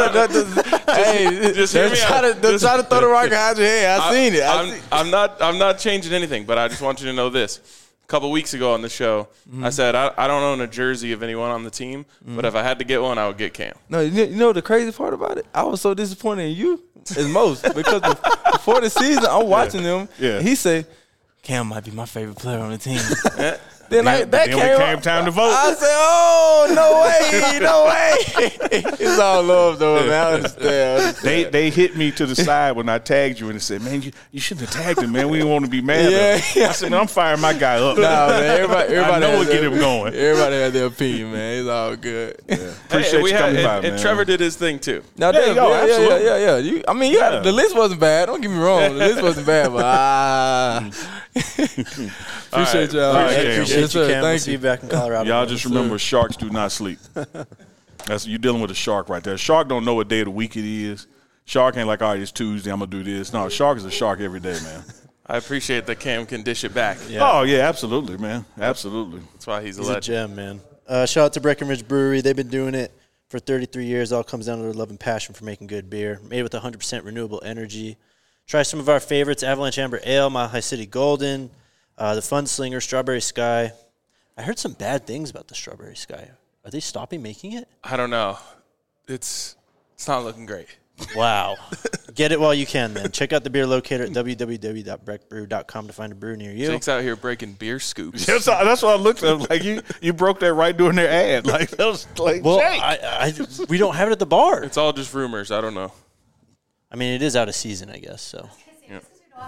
Speaker 4: Hey,
Speaker 2: just hear me out.
Speaker 4: Try to throw the rock behind your head. I seen it.
Speaker 2: I'm not changing anything, but I just want you to know this. A couple weeks ago on the show, I said I don't own a jersey of anyone on the team, but if I had to get one, I would get Cam.
Speaker 4: No, you know the crazy part about it? I was so disappointed in you as most because before the season, I'm watching them.
Speaker 3: Yeah.
Speaker 4: He said, Cam might be my favorite player on the team.
Speaker 3: Then came time to vote.
Speaker 4: I said, "Oh, no way!" It's all love, though, man. I understand.
Speaker 3: They hit me to the side when I tagged you and they said, "Man, you shouldn't have tagged him, man. We didn't want to be mad." I said, "Man, I'm firing my guy up."
Speaker 4: Nah, man. Everybody
Speaker 3: I know we'll get him going.
Speaker 4: Everybody had their opinion, man. It's all good.
Speaker 3: Yeah. Appreciate you coming by, man.
Speaker 2: And Trevor did his thing too.
Speaker 4: No,
Speaker 3: absolutely.
Speaker 4: Yeah. The list wasn't bad. Don't get me wrong. The list wasn't bad, but appreciate y'all.
Speaker 1: Appreciate you, Cam. We'll
Speaker 4: Thank
Speaker 1: see
Speaker 4: you.
Speaker 1: you back in Colorado.
Speaker 3: Y'all just remember, sharks do not sleep. You're dealing with a shark right there. A shark don't know what day of the week it is. Shark ain't like, all right, it's Tuesday, I'm going to do this. No, a shark is a shark every day, man.
Speaker 2: I appreciate that Cam can dish it back.
Speaker 1: Yeah.
Speaker 3: Oh, yeah, absolutely, man. Absolutely.
Speaker 2: That's why he's a
Speaker 1: He's
Speaker 2: legend.
Speaker 1: a gem, man. Shout out to Breckenridge Brewery. They've been doing it for 33 years. It all comes down to their love and passion for making good beer. Made with 100% renewable energy. Try some of our favorites, Avalanche Amber Ale, Mile High City Golden, the Fun Slinger, Strawberry Sky. I heard some bad things about the Strawberry Sky. Are they stopping making it?
Speaker 2: I don't know. It's not looking great.
Speaker 1: Wow. Get it while you can, then. Check out the beer locator at www.breckbrew.com to find a brew near you.
Speaker 2: Jake's out here breaking beer scoops.
Speaker 3: That's what I looked at. Like, you broke that right during their ad. Like, that was like,
Speaker 1: Well,
Speaker 3: Jake.
Speaker 1: we don't have it at the bar.
Speaker 2: It's all just rumors. I don't know.
Speaker 1: I mean, it is out of season, I guess, so.
Speaker 2: Yeah.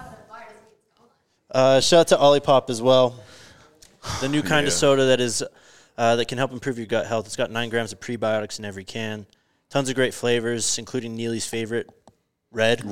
Speaker 1: Shout out to Olipop as well. The new kind of soda that can help improve your gut health. It's got 9 grams of prebiotics in every can. Tons of great flavors, including Neely's favorite, red.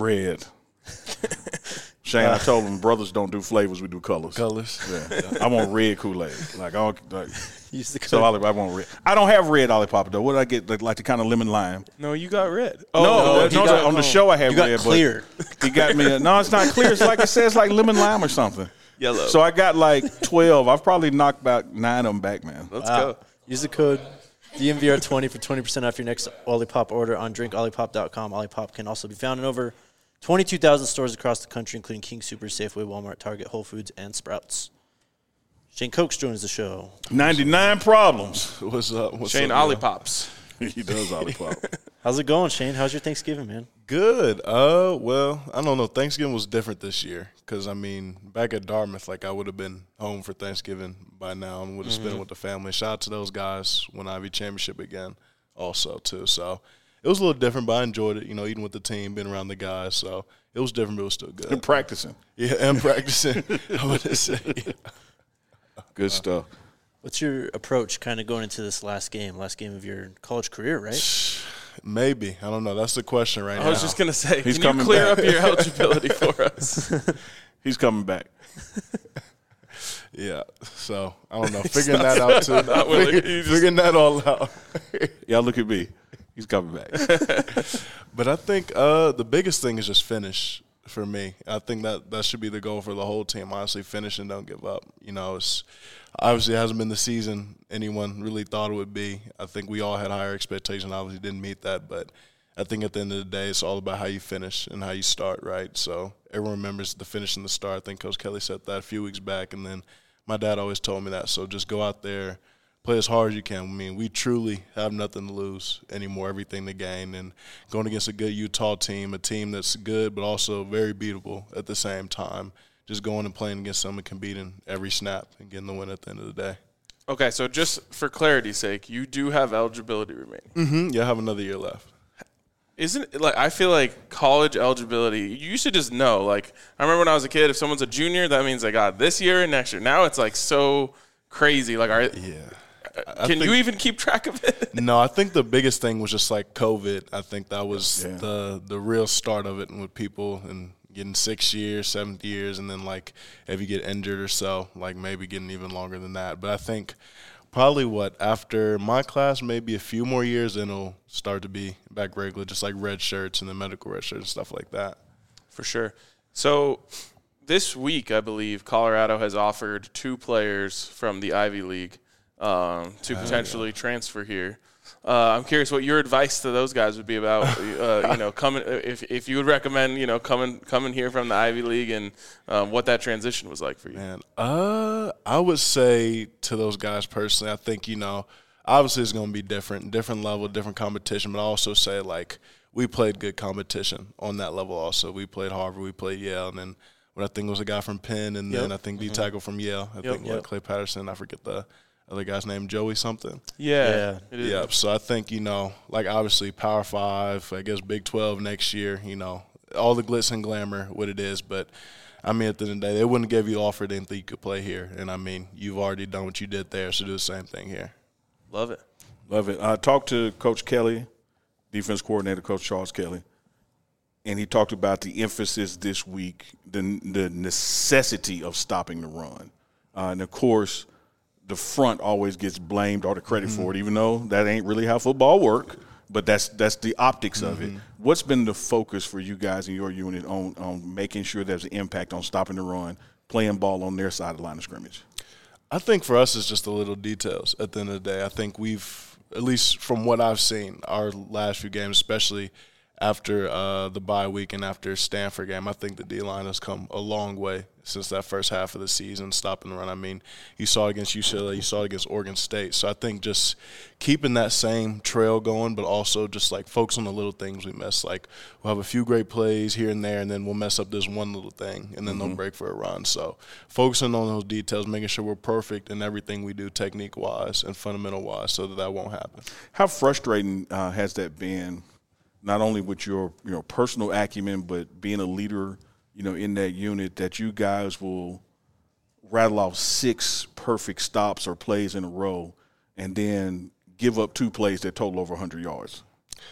Speaker 3: Shane, I told him brothers don't do flavors, we do colors. Yeah. I want red Kool-Aid. Like, I don't, like,
Speaker 1: Use the
Speaker 3: so
Speaker 1: code.
Speaker 3: I want red. I don't have red Olipop, though. What did I get? Like the kind of lemon lime?
Speaker 2: No, you got red.
Speaker 3: On the show I have
Speaker 1: You got
Speaker 3: red.
Speaker 1: clear.
Speaker 3: But he got me. No, it's not clear. It's like it says like lemon lime or something.
Speaker 2: Yellow.
Speaker 3: So I got like 12. I've probably knocked about 9 of them back, man.
Speaker 2: Let's go.
Speaker 1: Use the code DMVR20 for 20% off your next Olipop order on drinkolipop.com. Olipop can also be found in over 22,000 stores across the country, including King Super, Safeway, Walmart, Target, Whole Foods, and Sprouts. Shane Cokes joins the show.
Speaker 3: 99 problems.
Speaker 5: What's up?
Speaker 2: Shane Olipops.
Speaker 3: He does Olipop.
Speaker 1: How's it going, Shane? How's your Thanksgiving, man?
Speaker 5: Good. Well, I don't know. Thanksgiving was different this year because, I mean, back at Dartmouth, like, I would have been home for Thanksgiving by now and would have spent it with the family. Shout out to those guys, won Ivy Championship again also, too. So it was a little different, but I enjoyed it, eating with the team, being around the guys. So it was different, but it was still good.
Speaker 3: And practicing.
Speaker 5: Yeah, and practicing, I would say.
Speaker 3: Good stuff.
Speaker 1: What's your approach kind of going into this last game of your college career, right?
Speaker 5: Maybe. I don't know. That's the question right now.
Speaker 2: I was just going to say,
Speaker 3: He's
Speaker 2: can you
Speaker 3: coming
Speaker 2: clear
Speaker 3: back.
Speaker 2: up your eligibility for us?
Speaker 3: He's coming back.
Speaker 5: Yeah. So, I don't know. Figuring that out, too.
Speaker 2: Not willing. You just-
Speaker 5: Figuring that all out.
Speaker 3: Y'all look at me. He's coming back.
Speaker 5: But I think the biggest thing is just finish for me. I think that should be the goal for the whole team, honestly, finish and don't give up. It's obviously it hasn't been the season anyone really thought it would be. I think we all had higher expectations, obviously didn't meet that, but I think at the end of the day it's all about how you finish and how you start, right? So everyone remembers the finish and the start. I think Coach Kelly said that a few weeks back, and then my dad always told me that. So just go out there, play as hard as you can. I mean, we truly have nothing to lose anymore, everything to gain. And going against a good Utah team, a team that's good but also very beatable at the same time, just going and playing against someone can beat in every snap and getting the win at the end of the day.
Speaker 2: Okay, so just for clarity's sake, you do have eligibility remaining.
Speaker 5: Yeah, I have another year left.
Speaker 2: Isn't it, like, I feel like college eligibility, you should just know. Like, I remember when I was a kid, if someone's a junior, that means they got this year and next year. Now it's like so crazy. Like, Can you even keep track of it?
Speaker 5: No, I think the biggest thing was just like COVID. I think that was the real start of it, and with people and getting 6 years, 7 years, and then like if you get injured or so, like maybe getting even longer than that. But I think probably after my class, maybe a few more years, then it'll start to be back regular, just like red shirts and the medical red shirts and stuff like that.
Speaker 2: For sure. So this week, I believe, Colorado has offered 2 players from the Ivy League to potentially transfer here. I'm curious what your advice to those guys would be about, coming if you would recommend, coming here from the Ivy League and what that transition was like for you.
Speaker 5: Man, I would say to those guys personally, I think, obviously it's going to be different level, different competition, but I also say like we played good competition on that level also. We played Harvard, we played Yale, and then what I think was a guy from Penn, and then I think D-tackle from Yale. I think Clay Patterson, I forget the other guy's name, Joey something.
Speaker 2: Yeah. It is.
Speaker 5: Yep. So I think, like obviously Power 5, I guess Big 12 next year, all the glitz and glamour, what it is. But, I mean, at the end of the day, they wouldn't give you the offer they didn't think you could play here. And, I mean, you've already done what you did there, so do the same thing here.
Speaker 2: Love it.
Speaker 3: Love it. I talked to Coach Kelly, defense coordinator, Coach Charles Kelly, and he talked about the emphasis this week, the necessity of stopping the run. And, of course, the front always gets blamed or the credit for it, even though that ain't really how football works. But that's the optics of it. What's been the focus for you guys in your unit on making sure there's an impact on stopping the run, playing ball on their side of the line of scrimmage?
Speaker 5: I think for us it's just the little details at the end of the day. I think we've, at least from what I've seen, our last few games, especially after the bye week and after Stanford game, I think the D-line has come a long way since that first half of the season, stopping the run. I mean, you saw it against UCLA, you saw it against Oregon State. So I think just keeping that same trail going, but also just like focus on the little things we miss. Like we'll have a few great plays here and there, and then we'll mess up this one little thing, and then they'll break for a run. So focusing on those details, making sure we're perfect in everything we do technique-wise and fundamental-wise so that won't happen.
Speaker 3: How frustrating has that been, not only with your personal acumen, but being a leader in that unit, that you guys will rattle off 6 perfect stops or plays in a row and then give up 2 plays that total over 100 yards?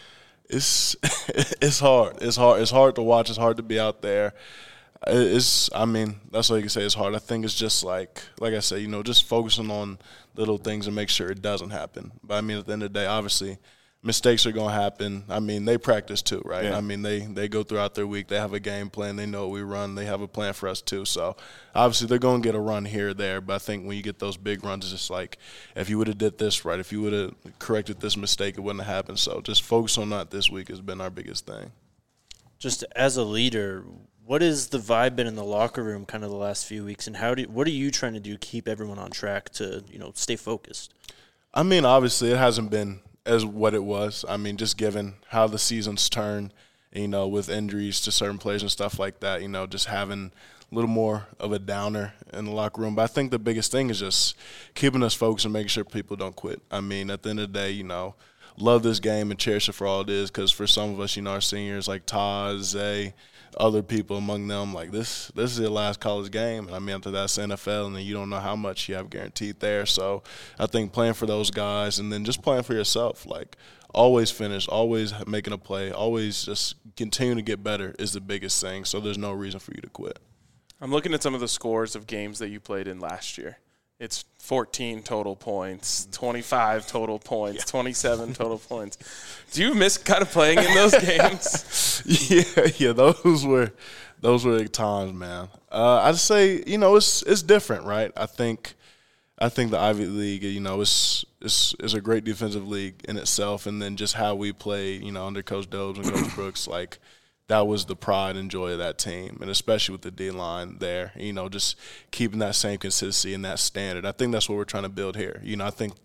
Speaker 5: It's hard. It's hard to watch. It's hard to be out there. That's all you can say. It's hard. I think it's just like I said, just focusing on little things and make sure it doesn't happen. But I mean, at the end of the day, obviously, mistakes are going to happen. I mean, they practice too, right? Yeah. I mean, they go throughout their week. They have a game plan. They know what we run. They have a plan for us too. So, obviously, they're going to get a run here or there. But I think when you get those big runs, it's just like if you would have did this right, if you would have corrected this mistake, it wouldn't have happened. So, just focus on that this week has been our biggest thing.
Speaker 1: Just as a leader, what has the vibe been in the locker room kind of the last few weeks, and what are you trying to do to keep everyone on track to, stay focused?
Speaker 5: I mean, obviously, it hasn't been as what it was. I mean, just given how the season's turned, with injuries to certain players and stuff like that, just having a little more of a downer in the locker room. But I think the biggest thing is just keeping us focused and making sure people don't quit. I mean, at the end of the day, love this game and cherish it for all it is, because for some of us, our seniors like Todd, Zay, other people among them, like this is their last college game. And I mean, after that's NFL, and then you don't know how much you have guaranteed there. So I think playing for those guys and then just playing for yourself, like always finish, always making a play, always just continue to get better is the biggest thing. So there's no reason for you to quit.
Speaker 2: I'm looking at some of the scores of games that you played in last year. It's 14 total points, 25 total points, 27 total points. Do you miss kind of playing in those games?
Speaker 5: Yeah, those were times, man. I'd say, it's different, right? I think the Ivy League, is a great defensive league in itself, and then just how we played, under Coach Dobbs and Coach Brooks, like that was the pride and joy of that team, and especially with the D-line there, just keeping that same consistency and that standard. I think that's what we're trying to build here. I think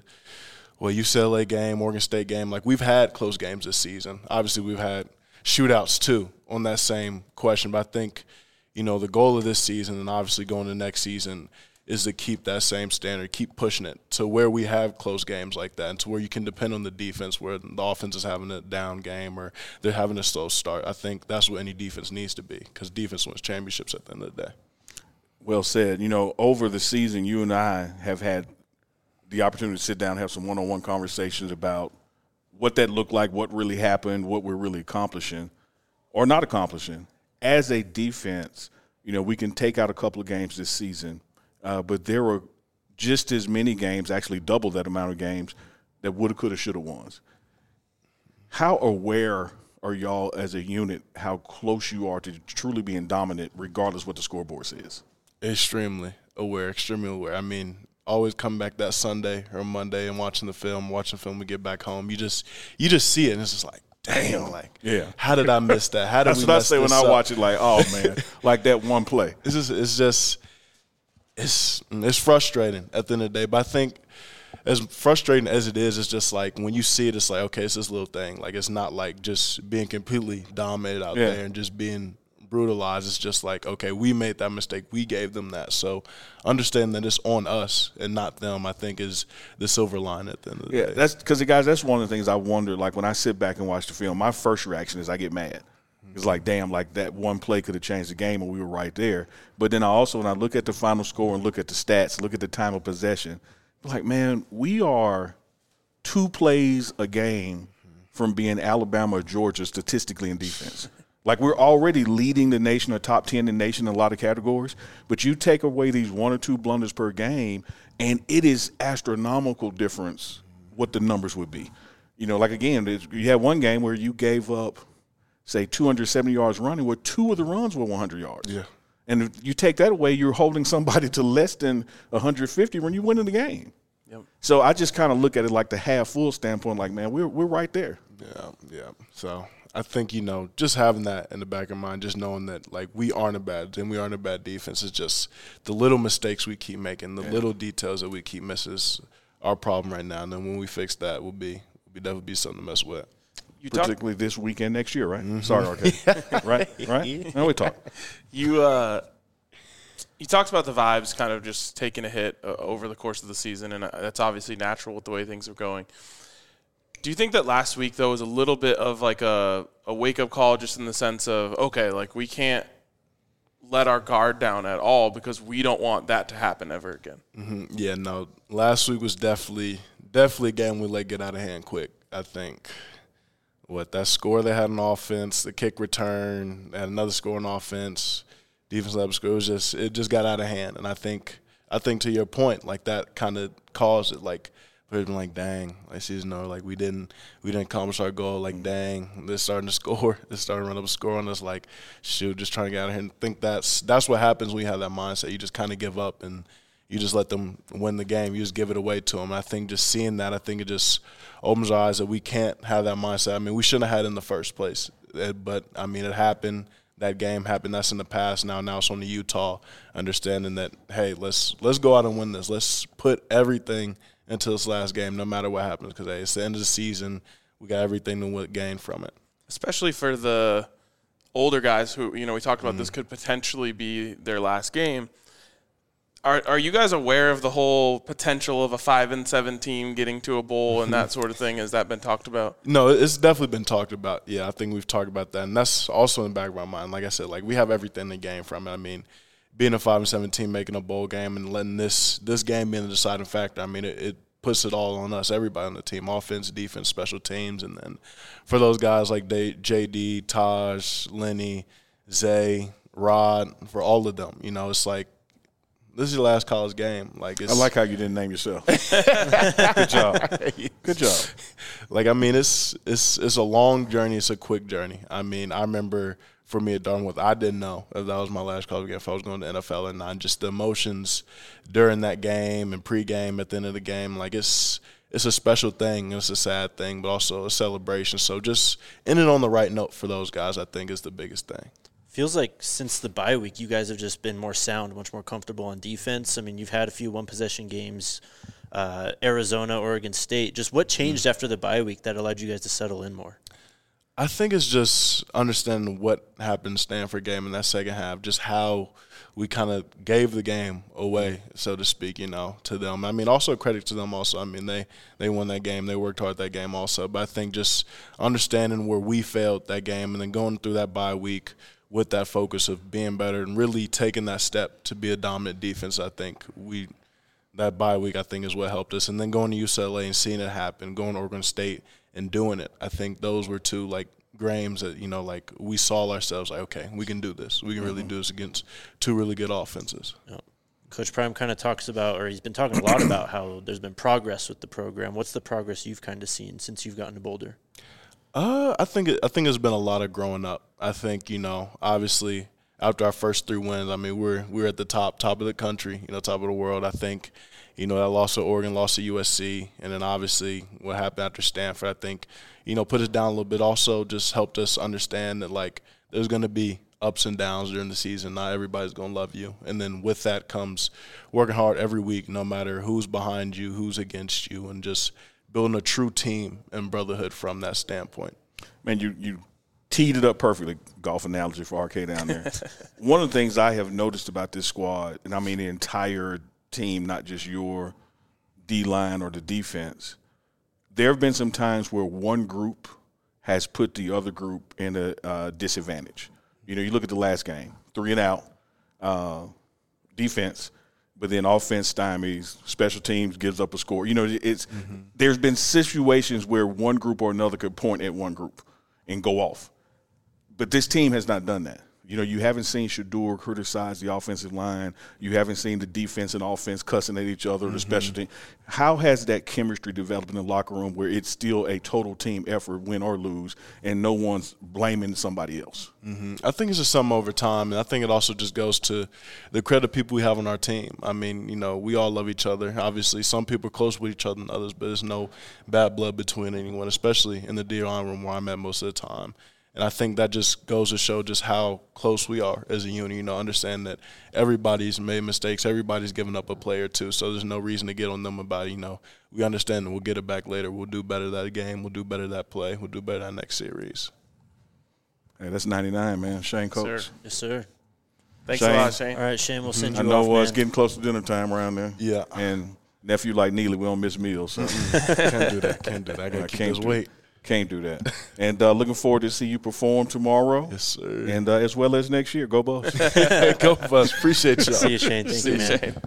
Speaker 5: UCLA game, Oregon State game, like we've had close games this season. Obviously, we've had shootouts too on that same question, but I think, the goal of this season and obviously going to next season is to keep that same standard, keep pushing it to where we have close games like that and to where you can depend on the defense, where the offense is having a down game or they're having a slow start. I think that's what any defense needs to be, because defense wins championships at the end of the day.
Speaker 3: Well said. Over the season, you and I have had the opportunity to sit down and have some one-on-one conversations about what that looked like, what really happened, what we're really accomplishing or not accomplishing. As a defense, we can take out a couple of games this season, but there were just as many games, actually double that amount of games, that woulda, coulda, shoulda ones. How aware are y'all as a unit how close you are to truly being dominant regardless what the scoreboard says?
Speaker 5: Extremely aware. I mean, always come back that Sunday or Monday and watching the film we get back home. You just see it and it's just like, damn, like,
Speaker 3: yeah.
Speaker 5: How did I miss that? How did
Speaker 3: That's
Speaker 5: we
Speaker 3: what I
Speaker 5: mess
Speaker 3: say when
Speaker 5: this
Speaker 3: I
Speaker 5: up?
Speaker 3: watch it, like, oh, man, like that one play.
Speaker 5: It's frustrating at the end of the day. But I think as frustrating as it is, it's just like when you see it, it's like, okay, it's this little thing. Like it's not like just being completely dominated out there and just being brutalized. It's just like, okay, we made that mistake. We gave them that. So understanding that it's on us and not them, I think, is the silver line at the end of the day.
Speaker 3: That's because, guys, that's one of the things I wonder. Like when I sit back and watch the film, my first reaction is I get mad. It's like, damn, like that one play could have changed the game and we were right there. But then I also, when I look at the final score and look at the stats, look at the time of possession, I'm like, man, we are 2 plays a game from being Alabama or Georgia statistically in defense. Like we're already leading the nation or top 10 in the nation in a lot of categories, but you take away these 1 or 2 blunders per game, and it is astronomical difference what the numbers would be. Like again, you had one game where you gave up, say, 270 yards running, where 2 of the runs were 100 yards.
Speaker 5: Yeah.
Speaker 3: And if you take that away, you're holding somebody to less than 150 when you win in the game.
Speaker 2: Yep.
Speaker 3: So I just kind of look at it like the half-full standpoint, like, man, we're right there.
Speaker 5: Yeah. So I think, just having that in the back of mind, just knowing that, like, we aren't a bad team, we aren't a bad defense. It's just the little mistakes we keep making, the little details that we keep missing is our problem right now. And then when we fix that, we'll definitely be something to mess with.
Speaker 3: Particularly this weekend next year, right? Mm-hmm. Sorry, RK. Right? No, we talk.
Speaker 2: You talked about the vibes kind of just taking a hit over the course of the season, and that's obviously natural with the way things are going. Do you think that last week, though, was a little bit of like a wake-up call just in the sense of, okay, like we can't let our guard down at all because we don't want that to happen ever again?
Speaker 5: Mm-hmm. Yeah, no. Last week was definitely a game we let get out of hand quick, I think. That score they had on offense, the kick return, and another score on offense, defense level score, it just got out of hand. And I think to your point, like that kind of caused it. Like we've been like, dang, like season over, like we didn't accomplish our goal. Like dang, they're starting to score, they're starting to run up a score on us. Like shoot, just trying to get out of here. And think that's what happens when you have that mindset. You just kind of give up and you just let them win the game. You just give it away to them. And I think just seeing that, I think it just opens our eyes that we can't have that mindset. I mean, we shouldn't have had it in the first place. But, I mean, it happened. That game happened. That's in the past. Now it's on to Utah, understanding that, hey, let's go out and win this. Let's put everything into this last game no matter what happens because, hey, it's the end of the season. We got everything to gain from it.
Speaker 2: Especially for the older guys who, we talked about this could potentially be their last game. Are you guys aware of the whole potential of a 5-7 team getting to a bowl and that sort of thing? Has that been talked about?
Speaker 5: No, it's definitely been talked about. Yeah, I think we've talked about that, and that's also in the back of my mind. Like I said, like we have everything to gain from it. I mean, being a 5-7 team, making a bowl game, and letting this game be the deciding factor. I mean, it puts it all on us, everybody on the team, offense, defense, special teams, and then for those guys like JD, Taj, Lenny, Zay, Rod, for all of them, it's like. This is your last college game. I
Speaker 3: like how you didn't name yourself. Good job.
Speaker 5: Like, I mean, it's a long journey. It's a quick journey. I mean, I remember for me at Dartmouth, I didn't know if that was my last college game, if I was going to NFL or not. Just the emotions during that game and pregame at the end of the game. Like, it's a special thing. It's a sad thing, but also a celebration. So just ending on the right note for those guys, I think, is the biggest thing.
Speaker 1: Feels like since the bye week, you guys have just been more sound, much more comfortable on defense. I mean, you've had a few one-possession games, Arizona, Oregon State. Just what changed after the bye week that allowed you guys to settle in more?
Speaker 5: I think it's just understanding what happened in Stanford game in that second half, just how we kind of gave the game away, so to speak, to them. I mean, also credit to them also. I mean, they won that game. They worked hard that game also. But I think just understanding where we failed that game and then going through that bye week with that focus of being better and really taking that step to be a dominant defense, I think we that bye week, I think, is what helped us. And then going to UCLA and seeing it happen, going to Oregon State and doing it, I think those were two, like, games that, like, we saw ourselves like, okay, we can do this. We can really do this against two really good offenses.
Speaker 1: Yep. Coach Prime kind of talks about, or he's been talking a lot about how there's been progress with the program. What's the progress you've kind of seen since you've gotten to Boulder?
Speaker 5: I think it's been a lot of growing up. I think, obviously after our first 3 wins, I mean, we're at the top of the country, top of the world. I think, that loss to Oregon, loss to USC, and then obviously what happened after Stanford, I think, put us down a little bit. Also just helped us understand that, like, there's going to be ups and downs during the season. Not everybody's going to love you. And then with that comes working hard every week, no matter who's behind you, who's against you, and just building a true team and brotherhood from that standpoint.
Speaker 3: Man, you teed it up perfectly, golf analogy for RK down there. One of the things I have noticed about this squad, and I mean the entire team, not just your D-line or the defense, there have been some times where one group has put the other group in a disadvantage. You look at the last game, 3 and out, defense, but then offense stymies, special teams gives up a score. There's been situations where one group or another could point at one group and go off. But this team has not done that. You haven't seen Shedeur criticize the offensive line. You haven't seen the defense and offense cussing at each other, the special team. How has that chemistry developed in the locker room where it's still a total team effort, win or lose, and no one's blaming somebody else?
Speaker 5: I think it's just something over time, and I think it also just goes to the credit of people we have on our team. I mean, we all love each other. Obviously, some people are close with each other than others, but there's no bad blood between anyone, especially in the D-line room where I'm at most of the time. And I think that just goes to show just how close we are as a unit. Understand that everybody's made mistakes. Everybody's given up a play or two. So there's no reason to get on them about, we understand that we'll get it back later. We'll do better that game. We'll do better that play. We'll do better that next series.
Speaker 3: Hey, that's 99, man. Shane Coates.
Speaker 1: Yes, sir.
Speaker 2: Thanks a lot, Shane.
Speaker 1: All right, Shane, we'll send you
Speaker 3: I know
Speaker 1: off, man.
Speaker 3: it's getting close to dinner time around there.
Speaker 5: Yeah.
Speaker 3: And nephew like Neely, we don't miss meals. So.
Speaker 5: Can't do that. I got to keep this weight.
Speaker 3: Can't do that. And looking forward to see you perform tomorrow.
Speaker 5: Yes, sir.
Speaker 3: And as well as next year. Go Buffs.
Speaker 5: Go Buffs. Appreciate y'all.
Speaker 1: See you, Shane. Thank you, man.
Speaker 2: Shane.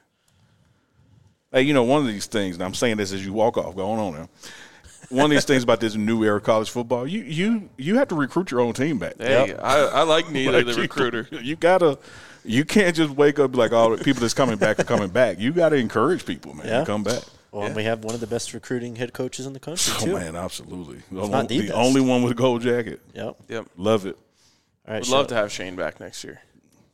Speaker 3: Hey, one of these things, and I'm saying this as you walk off, going on now. One of these things about this new era of college football, you have to recruit your own team back.
Speaker 2: Hey, I like Neely, the recruiter.
Speaker 3: You can't just wake up and be like, all the people that's coming back are coming back. You got to encourage people, man, to come back.
Speaker 1: Well, and we have one of the best recruiting head coaches in the country,
Speaker 3: Oh,
Speaker 1: too.
Speaker 3: man, absolutely.
Speaker 1: not the best.
Speaker 3: Only one with a gold jacket.
Speaker 1: Yep.
Speaker 3: Love it.
Speaker 1: All right,
Speaker 2: Would love to have Shane back next year.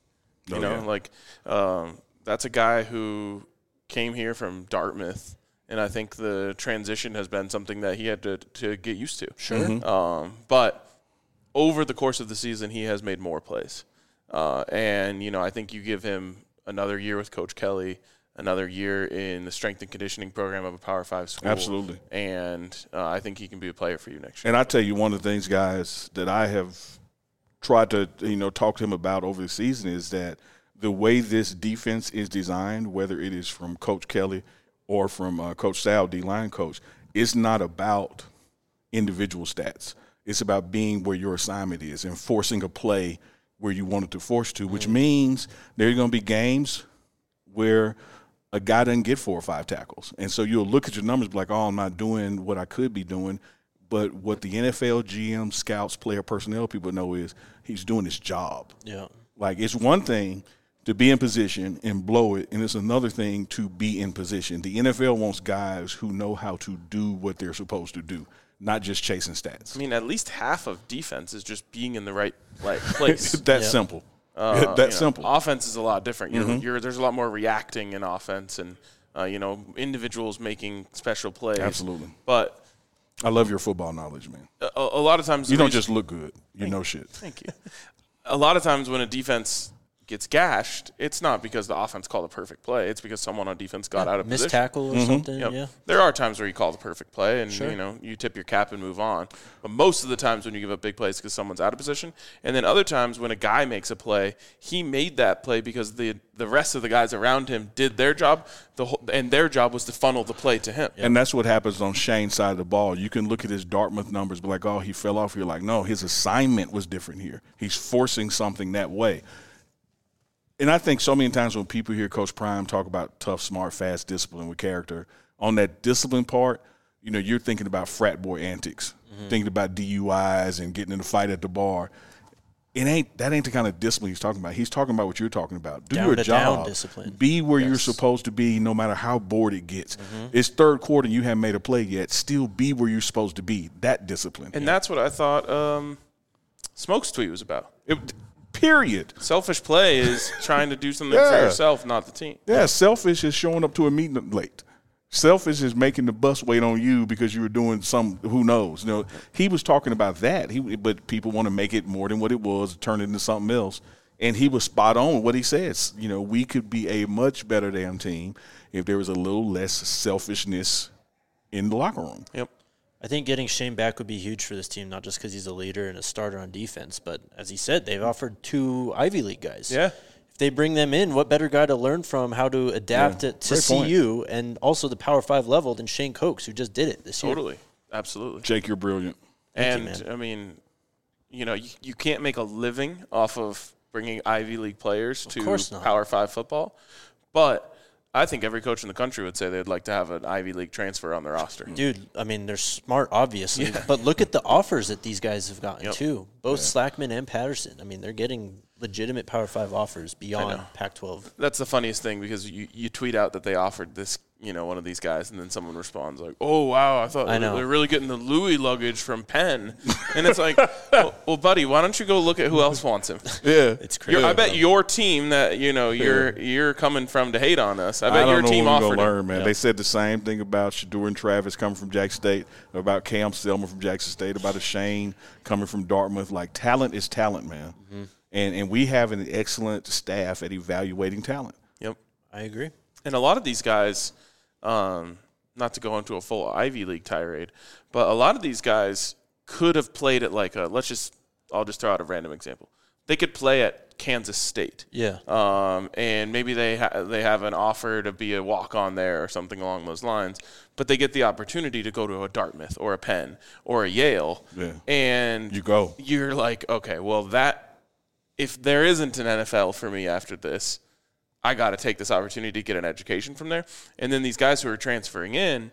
Speaker 2: That's a guy who came here from Dartmouth, and I think the transition has been something that he had to get used to.
Speaker 1: Sure.
Speaker 2: But over the course of the season, he has made more plays. And I think you give him another year with Coach Kelly, another year in the strength and conditioning program of a Power 5 school.
Speaker 3: Absolutely.
Speaker 2: And I think he can be a player for you next year.
Speaker 3: And I tell you, one of the things, guys, that I have tried to, talk to him about over the season is that the way this defense is designed, whether it is from Coach Kelly or from Coach Sal, D-line coach, it's not about individual stats. It's about being where your assignment is and forcing a play where you want it to force to, which means there are going to be games where a guy doesn't get 4 or 5 tackles. And so you'll look at your numbers and be like, oh, I'm not doing what I could be doing. But what the NFL, GM, scouts, player personnel people know is he's doing his job.
Speaker 1: Yeah.
Speaker 3: Like, it's one thing to be in position and blow it, and it's another thing to be in position. The NFL wants guys who know how to do what they're supposed to do, not just chasing stats.
Speaker 2: I mean, at least half of defense is just being in the right place.
Speaker 3: That's simple. That's simple.
Speaker 2: Offense is a lot different. There's a lot more reacting in offense and, individuals making special plays.
Speaker 3: Absolutely.
Speaker 2: But
Speaker 3: I love your football knowledge, man.
Speaker 2: a lot of times
Speaker 3: You don't just look good. You know shit.
Speaker 2: Thank you. A lot of times when a defense gets gashed, it's not because the offense called a perfect play. It's because someone on defense got out of
Speaker 1: Missed
Speaker 2: position.
Speaker 1: tackle or something.
Speaker 2: Yep.
Speaker 1: Yeah.
Speaker 2: There are times where you call the perfect play and,
Speaker 1: Sure.
Speaker 2: you tip your cap and move on. But most of the times when you give up big plays because someone's out of position. And then other times when a guy makes a play, he made that play because the rest of the guys around him did their job, and their job was to funnel the play to him.
Speaker 3: And that's what happens on Shane's side of the ball. You can look at his Dartmouth numbers, be like, oh, he fell off. You're like, no, his assignment was different here. He's forcing something that way. And I think so many times when people hear Coach Prime talk about tough, smart, fast discipline with character, on that discipline part, you're thinking about frat boy antics, thinking about DUIs and getting in a fight at the bar. That ain't the kind of discipline he's talking about. He's talking about what you're talking about. Do your job.
Speaker 1: Discipline.
Speaker 3: Be where you're supposed to be no matter how bored it gets. It's third quarter and you haven't made a play yet. Still be where you're supposed to be. That discipline.
Speaker 2: And that's what I thought Smoke's tweet was about.
Speaker 3: Period.
Speaker 2: Selfish play is trying to do something for yourself, not the team.
Speaker 3: Yeah, selfish is showing up to a meeting late. Selfish is making the bus wait on you because you were doing some, who knows. He was talking about that. But people want to make it more than what it was, turn it into something else. And he was spot on with what he says. We could be a much better damn team if there was a little less selfishness in the locker room.
Speaker 2: Yep.
Speaker 1: I think getting Shane back would be huge for this team, not just because he's a leader and a starter on defense, but as he said, they've offered 2 Ivy League guys.
Speaker 2: Yeah.
Speaker 1: If they bring them in, what better guy to learn from how to adapt to CU and also the Power 5 level than Shane Cokes, who just did it this year.
Speaker 2: Totally. Absolutely.
Speaker 3: Jake, you're brilliant.
Speaker 2: And, I mean, you can't make a living off of bringing Ivy League players to Power 5 football, but I think every coach in the country would say they'd like to have an Ivy League transfer on their roster.
Speaker 1: Dude, I mean, they're smart, obviously. Yeah. But look at the offers that these guys have gotten, too. Both Slackman and Patterson. I mean, they're getting legitimate Power 5 offers beyond Pac-12.
Speaker 2: That's the funniest thing because you tweet out that they offered this, one of these guys, and then someone responds like, "Oh, wow, I thought they're really getting the Louis luggage from Penn." And it's like, well, buddy, why don't you go look at who else wants him?
Speaker 3: Yeah.
Speaker 1: It's crazy.
Speaker 2: I bet your team that, you're coming from to hate on us. I bet your team offered
Speaker 3: learn, man. They said the same thing about Shedeur and Travis coming from Jackson State, about Cam Selma from Jackson State, about a Shane coming from Dartmouth. Like, talent is talent, man. Mm-hmm. And we have an excellent staff at evaluating talent.
Speaker 2: Yep.
Speaker 1: I agree.
Speaker 2: And a lot of these guys, not to go into a full Ivy League tirade, but a lot of these guys could have played at like I'll just throw out a random example. They could play at Kansas State.
Speaker 1: Yeah.
Speaker 2: And maybe they have an offer to be a walk-on there or something along those lines, but they get the opportunity to go to a Dartmouth or a Penn or a Yale.
Speaker 3: Yeah.
Speaker 2: And you're like, okay, well, if there isn't an NFL for me after this, I got to take this opportunity to get an education from there. And then these guys who are transferring in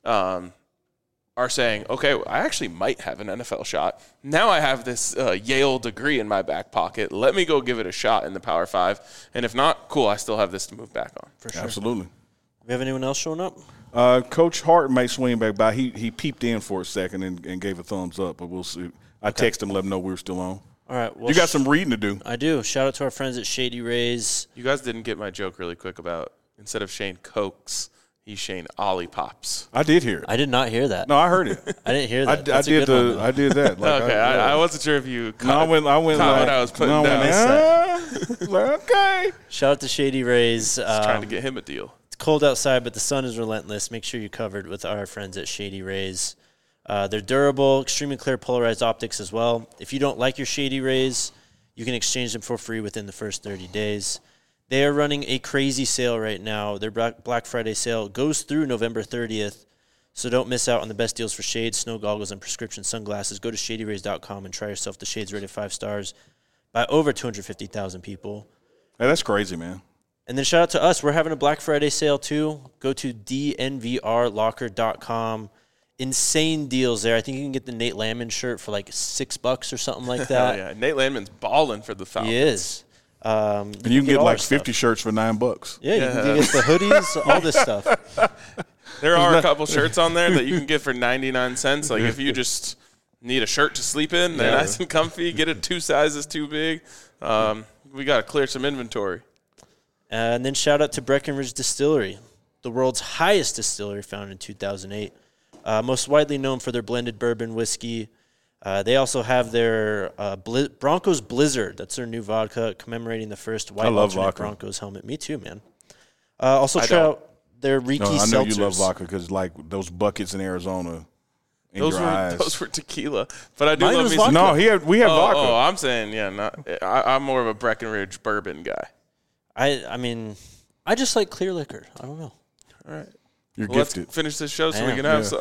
Speaker 2: are saying, okay, I actually might have an NFL shot. Now I have this Yale degree in my back pocket. Let me go give it a shot in the Power 5. And if not, cool, I still have this to move back on.
Speaker 1: For sure.
Speaker 3: Absolutely.
Speaker 1: We have anyone else showing up?
Speaker 3: Coach Hart may swing back by. He peeped in for a second and gave a thumbs up, but we'll see. I texted him, let him know we were still on.
Speaker 1: All right. Well,
Speaker 3: you got some reading to do.
Speaker 1: I do. Shout out to our friends at Shady Rays.
Speaker 2: You guys didn't get my joke really quick about instead of Shane Cokes, he's Shane Ollie Pops.
Speaker 3: I did hear it.
Speaker 1: I did not hear that.
Speaker 3: No, I heard it.
Speaker 1: I didn't hear that.
Speaker 3: I did that. Like,
Speaker 2: okay, I wasn't sure if you
Speaker 3: caught what I was putting down. Okay.
Speaker 1: Shout out to Shady Rays.
Speaker 2: Trying to get him a deal.
Speaker 1: It's cold outside, but the sun is relentless. Make sure you're covered with our friends at Shady Rays. They're durable, extremely clear polarized optics as well. If you don't like your Shady Rays, you can exchange them for free within the first 30 days. They are running a crazy sale right now. Their Black Friday sale goes through November 30th, so don't miss out on the best deals for shades, snow goggles, and prescription sunglasses. Go to shadyrays.com and try yourself the shades rated 5 stars by over 250,000 people.
Speaker 3: Hey, that's crazy, man.
Speaker 1: And then shout out to us. We're having a Black Friday sale too. Go to dnvrlocker.com. Insane deals there. I think you can get the Nate Landman shirt for like $6 or something like that.
Speaker 2: Yeah, Nate Landman's balling for the Falcons.
Speaker 1: He is.
Speaker 3: And you can get like 50 shirts for $9.
Speaker 1: Yeah, you can get the hoodies, all this stuff.
Speaker 2: There are a couple shirts on there that you can get for 99 cents. Like if you just need a shirt to sleep in, they're nice and comfy. Get it 2 sizes too big. We got to clear some inventory.
Speaker 1: And then shout out to Breckenridge Distillery, the world's highest distillery, founded in 2008. Most widely known for their blended bourbon whiskey. They also have their Broncos Blizzard. That's their new vodka commemorating the first white alternate Broncos helmet. Me too, man. Also shout out their Riki seltzers.
Speaker 3: I know you love vodka because like those buckets in Arizona in your eyes.
Speaker 2: Those were tequila. But I do
Speaker 1: Mine
Speaker 2: love
Speaker 1: was
Speaker 2: me
Speaker 1: vodka.
Speaker 2: some.
Speaker 3: No, we have vodka.
Speaker 2: Oh, I'm saying, I'm more of a Breckenridge bourbon guy.
Speaker 1: I mean, I just like clear liquor. I don't know.
Speaker 2: All right.
Speaker 3: You're gifted.
Speaker 2: Let's finish this show so we can have some.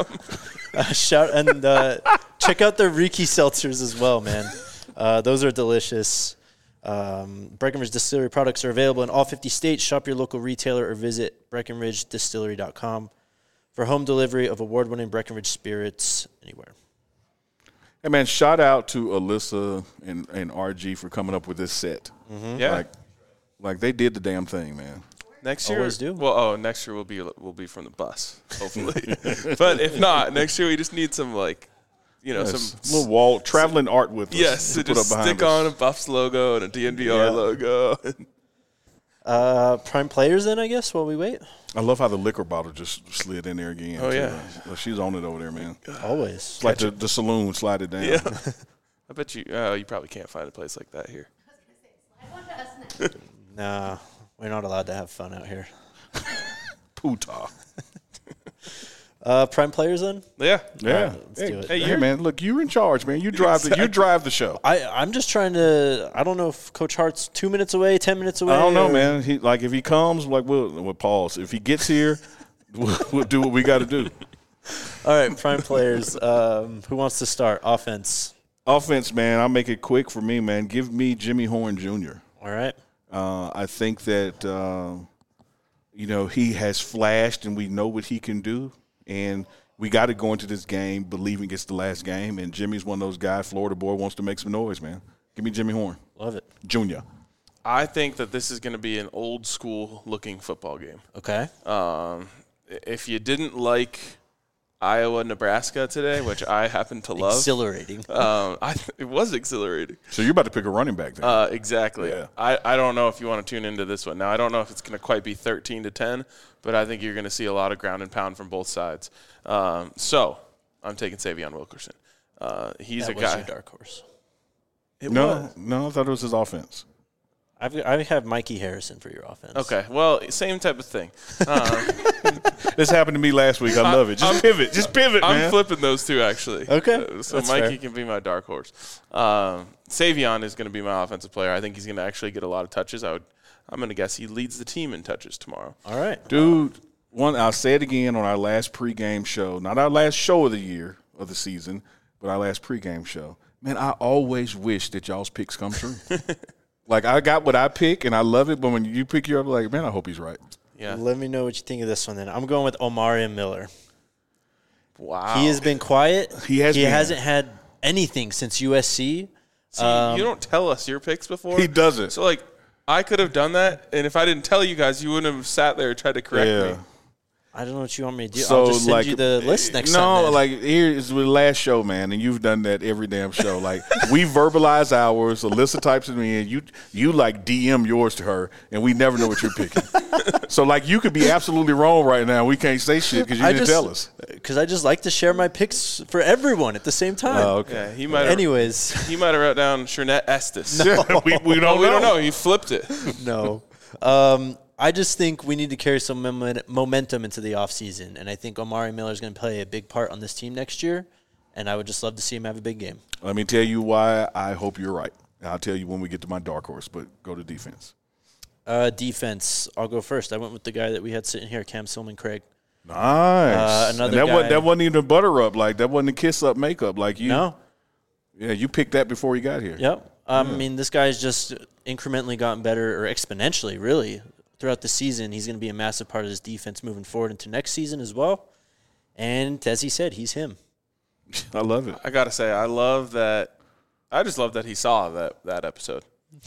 Speaker 1: Check out their Riki seltzers as well, man. Those are delicious. Breckenridge Distillery products are available in all 50 states. Shop your local retailer or visit BreckenridgeDistillery.com for home delivery of award-winning Breckenridge spirits anywhere.
Speaker 3: Hey, man, shout out to Alyssa and RG for coming up with this set.
Speaker 2: Mm-hmm. Yeah.
Speaker 3: Like they did the damn thing, man.
Speaker 2: Next year,
Speaker 1: Always do.
Speaker 2: Well, next year we'll be from the bus, hopefully. But if not, next year we just need some some
Speaker 3: little wall traveling art with us.
Speaker 2: Yes, to
Speaker 3: put
Speaker 2: just
Speaker 3: up behind
Speaker 2: stick
Speaker 3: us.
Speaker 2: on a Buffs logo and a DNVR logo.
Speaker 1: Prime players then, I guess, while we wait.
Speaker 3: I love how the liquor bottle just slid in there again.
Speaker 2: Oh,
Speaker 3: too.
Speaker 2: yeah.
Speaker 3: She's on it over there, man.
Speaker 1: Always.
Speaker 3: It's like the saloon slide it down.
Speaker 2: Yeah. I bet you probably can't find a place like that here.
Speaker 1: Nah, we're not allowed to have fun out here.
Speaker 3: Puta.
Speaker 1: Prime players then?
Speaker 2: Yeah.
Speaker 3: Yeah.
Speaker 1: All right, let's do it.
Speaker 3: Hey, man, look, you're in charge, man. You drive the show.
Speaker 1: I'm just trying to. I don't know if Coach Hart's 2 minutes away, 10 minutes away.
Speaker 3: I don't know,
Speaker 1: or-
Speaker 3: man. If he comes, we'll pause. If he gets here, we'll do what we got to do.
Speaker 1: All right, prime players. Who wants to start? Offense.
Speaker 3: Offense, man. I'll make it quick for me, man. Give me Jimmy Horn Jr.
Speaker 1: All right.
Speaker 3: I think that he has flashed, and we know what he can do. And we got to go into this game believing it's the last game. And Jimmy's one of those guys, Florida boy, wants to make some noise, man. Give me Jimmy Horn.
Speaker 1: Love it.
Speaker 3: Junior.
Speaker 2: I think that this is going to be an old school looking football game.
Speaker 1: Okay.
Speaker 2: If you didn't like Iowa, Nebraska today, which I happen to love,
Speaker 1: Exhilarating.
Speaker 2: it was exhilarating.
Speaker 3: So you're about to pick a running back then.
Speaker 2: Exactly.
Speaker 3: Yeah.
Speaker 2: I don't know if you want to tune into this one. Now, I don't know if it's going to quite be 13-10, but I think you're going to see a lot of ground and pound from both sides. So I'm taking Savion Wilkerson. He's
Speaker 1: that
Speaker 2: a
Speaker 1: was
Speaker 2: guy.
Speaker 1: your dark horse.
Speaker 2: It
Speaker 3: No,
Speaker 2: was.
Speaker 3: I thought it was his offense.
Speaker 1: I have Mikey Harrison for your offense.
Speaker 2: Okay. Well, same type of thing.
Speaker 3: This happened to me last week. I love it. Just pivot,
Speaker 2: I'm
Speaker 3: man.
Speaker 2: flipping those two, actually.
Speaker 1: Okay.
Speaker 2: So
Speaker 1: That's
Speaker 2: Mikey
Speaker 1: fair.
Speaker 2: can be my dark horse. Savion is going to be my offensive player. I think he's going to actually get a lot of touches. I'm going to guess he leads the team in touches tomorrow.
Speaker 1: All right.
Speaker 3: Dude, I'll say it again on our last pregame show. Not our last show of the year, of the season, but our last pregame show. Man, I always wish that y'all's picks come true. Like, I got what I pick, and I love it, but when you pick your, I'm like, man, I hope he's right.
Speaker 2: Yeah.
Speaker 1: Let me know what you think of this one then. I'm going with Omarion Miller.
Speaker 2: Wow.
Speaker 1: He has been quiet.
Speaker 3: He
Speaker 1: hasn't had anything since USC.
Speaker 2: See, you don't tell us your picks before.
Speaker 3: He doesn't.
Speaker 2: So, I could have done that, and if I didn't tell you guys, you wouldn't have sat there and tried to correct me.
Speaker 1: I don't know what you want me to do.
Speaker 3: So,
Speaker 1: I'll just send you the list next time.
Speaker 3: No,
Speaker 1: then.
Speaker 3: like, here is the last show, man, and you've done that every damn show. Like, we verbalize ours. Alyssa types it in. You like DM yours to her, and we never know what you're picking. So, like, you could be absolutely wrong right now. We can't say shit because you didn't tell us.
Speaker 1: Because I just like to share my picks for everyone at the same time.
Speaker 3: Oh, okay.
Speaker 2: Yeah, he might have.
Speaker 1: Anyways,
Speaker 2: He might have wrote down Shernette Estes.
Speaker 3: we don't
Speaker 2: We don't know. He flipped it.
Speaker 1: no. I just think we need to carry some momentum into the offseason, and I think Omarion Miller is going to play a big part on this team next year, and I would just love to see him have a big game.
Speaker 3: Let me tell you why I hope you're right. I'll tell you when we get to my dark horse, but go to defense.
Speaker 1: Defense, I'll go first. I went with the guy that we had sitting here, Cam Silman-Craig.
Speaker 3: Nice.
Speaker 1: Another
Speaker 3: and
Speaker 1: guy.
Speaker 3: that wasn't even a butter up. Like, that wasn't a kiss up makeup. Like, you.
Speaker 1: No.
Speaker 3: Yeah, you picked that before you got here.
Speaker 1: Yep. I mean, this guy's just incrementally gotten better, or exponentially, really, throughout the season. He's going to be a massive part of this defense moving forward into next season as well. And as he said, he's him.
Speaker 3: I love it.
Speaker 2: I gotta say, I love that. I just love that he saw that episode.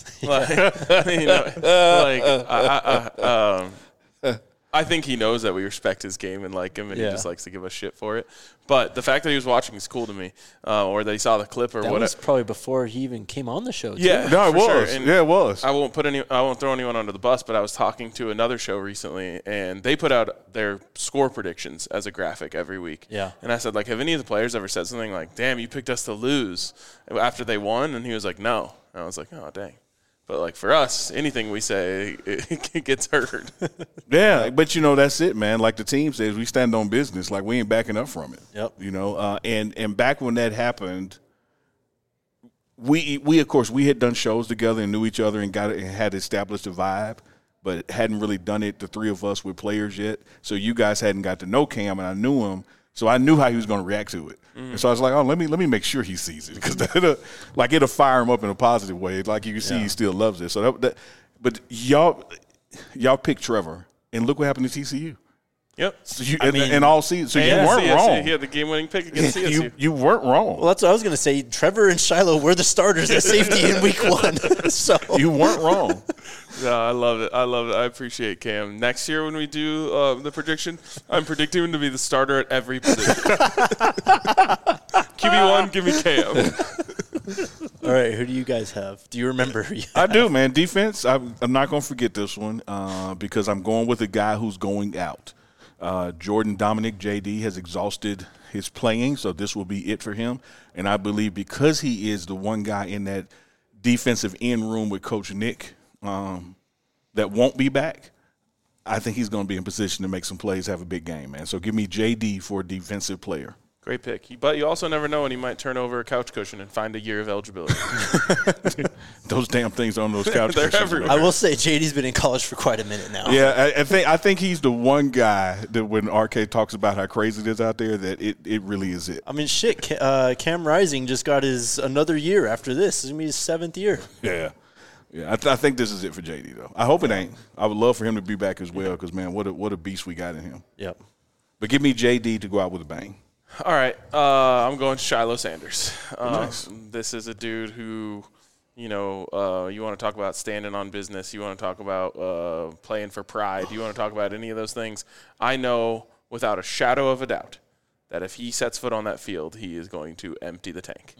Speaker 2: I think he knows that we respect his game and like him, and he just likes to give us shit for it. But the fact that he was watching is cool to me, or that he saw the clip or
Speaker 1: That
Speaker 2: whatever.
Speaker 1: was probably before he even came on the show, too.
Speaker 2: Yeah,
Speaker 3: No, it
Speaker 2: for
Speaker 3: was.
Speaker 2: sure. And
Speaker 3: Yeah, it was.
Speaker 2: I won't throw anyone under the bus, but I was talking to another show recently, and they put out their score predictions as a graphic every week.
Speaker 1: Yeah.
Speaker 2: And I said, like, have any of the players ever said something like, "Damn, you picked us to lose," after they won? And he was like, "No." And I was like, "Oh, dang." But, like, for us, anything we say, it gets heard.
Speaker 3: Yeah, but, that's it, man. Like the team says, we stand on business. Like, we ain't backing up from it.
Speaker 1: Yep.
Speaker 3: And back when that happened, we of course, we had done shows together and knew each other and had established a vibe, but hadn't really done it, the three of us, with players yet. So you guys hadn't got to know Cam, and I knew him. So I knew how he was going to react to it. And so I was like, oh, let me make sure he sees it because it'll fire him up in a positive way. Like you can see he still loves it. So but y'all picked Trevor, and look what happened to TCU.
Speaker 2: Yep.
Speaker 3: So in all season, so you weren't
Speaker 2: CSU.
Speaker 3: wrong.
Speaker 2: He had the game-winning pick against CSU.
Speaker 3: You weren't wrong.
Speaker 1: Well, that's what I was going to say. Trevor and Shiloh were the starters at safety in week 1. So
Speaker 3: You weren't wrong.
Speaker 2: Yeah, I love it. I appreciate Cam. Next year when we do the prediction, I'm predicting him to be the starter at every position. QB1, give me Cam.
Speaker 1: all right, who do you guys have? Do you remember who you
Speaker 3: I do, man. Defense, I'm not going to forget this one because I'm going with a guy who's going out. Jordan Dominic, JD, has exhausted his playing, so this will be it for him. And I believe because he is the one guy in that defensive end room with Coach Nick that won't be back, I think he's going to be in position to make some plays, have a big game, man. So give me JD for a defensive player.
Speaker 2: Great pick. But you also never know when he might turn over a couch cushion and find a year of eligibility.
Speaker 3: Those damn things on those couch
Speaker 2: They're
Speaker 3: cushions.
Speaker 2: everywhere.
Speaker 1: I will say JD's been in college for quite a minute now.
Speaker 3: Yeah, I think he's the one guy that when RK talks about how crazy it is out there, that it really is it.
Speaker 1: I mean, shit, Cam Rising just got his another year after this. It's going to be his 7th year.
Speaker 3: Yeah. Yeah, I think this is it for JD, though. I hope it ain't. I would love for him to be back as well because, man, what a beast we got in him.
Speaker 1: Yep.
Speaker 3: But give me JD to go out with a bang.
Speaker 2: All right, I'm going Shiloh Sanders.
Speaker 3: Nice.
Speaker 2: This is a dude who, you want to talk about standing on business. You want to talk about playing for pride. You want to talk about any of those things. I know without a shadow of a doubt that if he sets foot on that field, he is going to empty the tank.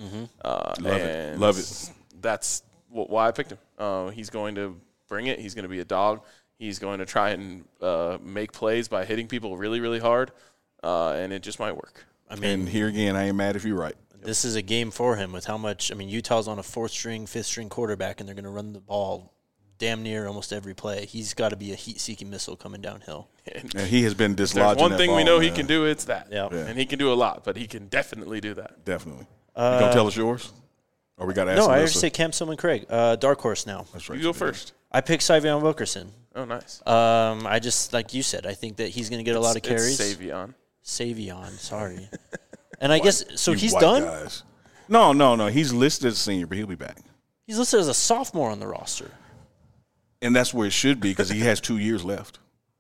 Speaker 3: Love it.
Speaker 2: That's why I picked him. He's going to bring it. He's going to be a dog. He's going to try and make plays by hitting people really, really hard, and it just might work.
Speaker 1: I mean,
Speaker 3: And here again, I ain't mad if you're right.
Speaker 1: this is a game for him with how much – I mean, Utah's on a 4th-string, 5th-string quarterback, and they're going to run the ball damn near almost every play. He's got to be a heat-seeking missile coming downhill.
Speaker 3: And he has been
Speaker 2: There's
Speaker 3: dislodging
Speaker 2: one
Speaker 3: that
Speaker 2: thing we
Speaker 3: ball,
Speaker 2: know he
Speaker 3: man.
Speaker 2: can do, it's that.
Speaker 1: Yeah.
Speaker 2: And he can do a lot, but he can definitely do that.
Speaker 3: Definitely. You going to tell us yours? Or we got to ask
Speaker 1: No, I already
Speaker 3: Alyssa?
Speaker 1: said Cam Sillman Craig. Dark horse now.
Speaker 3: That's right.
Speaker 2: You go first.
Speaker 1: I picked Syvion Wilkerson.
Speaker 2: Oh, nice.
Speaker 1: I just, like you said, I think that he's going to get a lot of carries.
Speaker 2: It's Savion.
Speaker 1: Savion, sorry. And I guess – so
Speaker 3: You
Speaker 1: he's
Speaker 3: white
Speaker 1: done?
Speaker 3: guys. No. He's listed as a senior, but he'll be back.
Speaker 1: He's listed as a sophomore on the roster.
Speaker 3: And that's where it should be because he has 2 years left.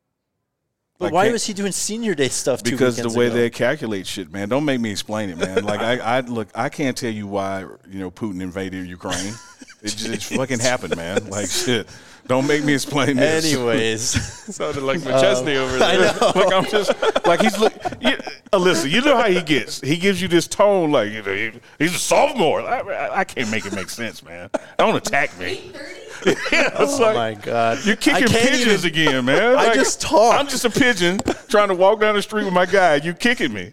Speaker 1: But
Speaker 3: Like,
Speaker 1: why
Speaker 3: can't-
Speaker 1: was he doing senior day stuff 2
Speaker 3: Because the
Speaker 1: weekends
Speaker 3: way
Speaker 1: ago?
Speaker 3: they calculate shit, man. Don't make me explain it, man. Like I can't tell you why Putin invaded Ukraine. It just fucking happened, man. Like shit. Don't make me explain this.
Speaker 1: Anyways.
Speaker 2: Sounded like McChesney over there.
Speaker 1: I know.
Speaker 3: Like I'm just like he's Alyssa, you know how he gets. He gives you this tone like he's a sophomore. I can't make it make sense, man. Don't attack me. Yeah, it's
Speaker 1: Oh,
Speaker 3: like,
Speaker 1: my God.
Speaker 3: you're kicking
Speaker 1: I can't
Speaker 3: pigeons
Speaker 1: even-
Speaker 3: again, man.
Speaker 1: I
Speaker 3: Like,
Speaker 1: just talked.
Speaker 3: I'm just a pigeon trying to walk down the street with my guy. You kicking me.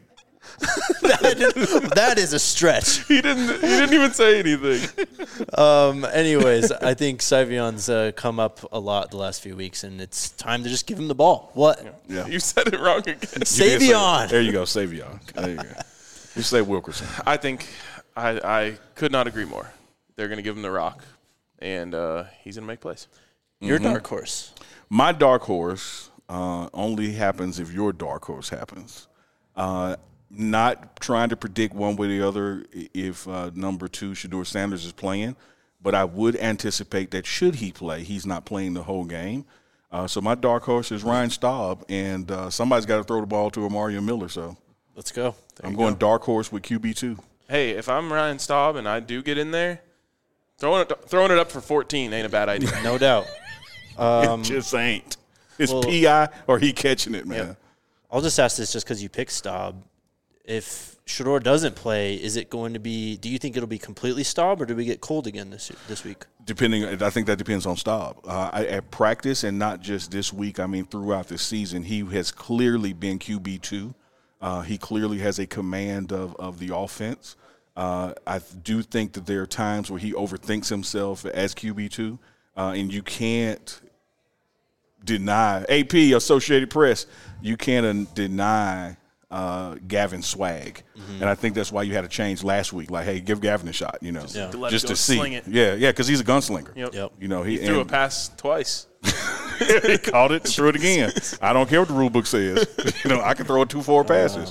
Speaker 1: That is a stretch.
Speaker 2: He didn't even say anything.
Speaker 1: Anyways, I think Syvion's come up a lot the last few weeks, and it's time to just give him the ball. What?
Speaker 3: Yeah.
Speaker 2: You said it wrong again.
Speaker 1: Savion.
Speaker 3: There you go, Savion. There you go. You say Wilkerson.
Speaker 2: I think I could not agree more. They're going to give him the rock, and he's going to make plays.
Speaker 1: Your dark horse.
Speaker 3: My dark horse only happens if your dark horse happens. Not trying to predict one way or the other if number 2, Shedeur Sanders, is playing, but I would anticipate that should he play, he's not playing the whole game. So my dark horse is Ryan Staub, and somebody's got to throw the ball to Mario Miller. So
Speaker 1: Let's go.
Speaker 3: I'm going dark horse with QB2.
Speaker 2: Hey, if I'm Ryan Staub and I do get in there, throwing it up for 14 ain't a bad idea.
Speaker 1: No doubt.
Speaker 3: It just ain't. It's
Speaker 1: well-
Speaker 3: PI or he catching it, man.
Speaker 1: I'll just ask this just because you picked Staub. If Shedeur doesn't play, is it going to be – do you think it'll be completely Staub, or do we get cold again this week?
Speaker 3: I think that depends on Staub. At practice, and not just this week, I mean throughout the season, he has clearly been QB2. He clearly has a command of the offense. I do think that there are times where he overthinks himself as QB2, and you can't deny – AP, Associated Press, you can't deny – Gavin swag, and I think that's why you had to change last week. Like, hey, give Gavin a shot,
Speaker 2: To let
Speaker 3: just
Speaker 2: it
Speaker 3: to
Speaker 2: go
Speaker 3: see.
Speaker 2: sling it.
Speaker 3: Yeah, because he's a gunslinger.
Speaker 2: Yep.
Speaker 1: Yep.
Speaker 3: You know,
Speaker 2: He threw a pass twice.
Speaker 3: He caught it, threw it again. I don't care what the rule book says. I can throw it 2 forward passes.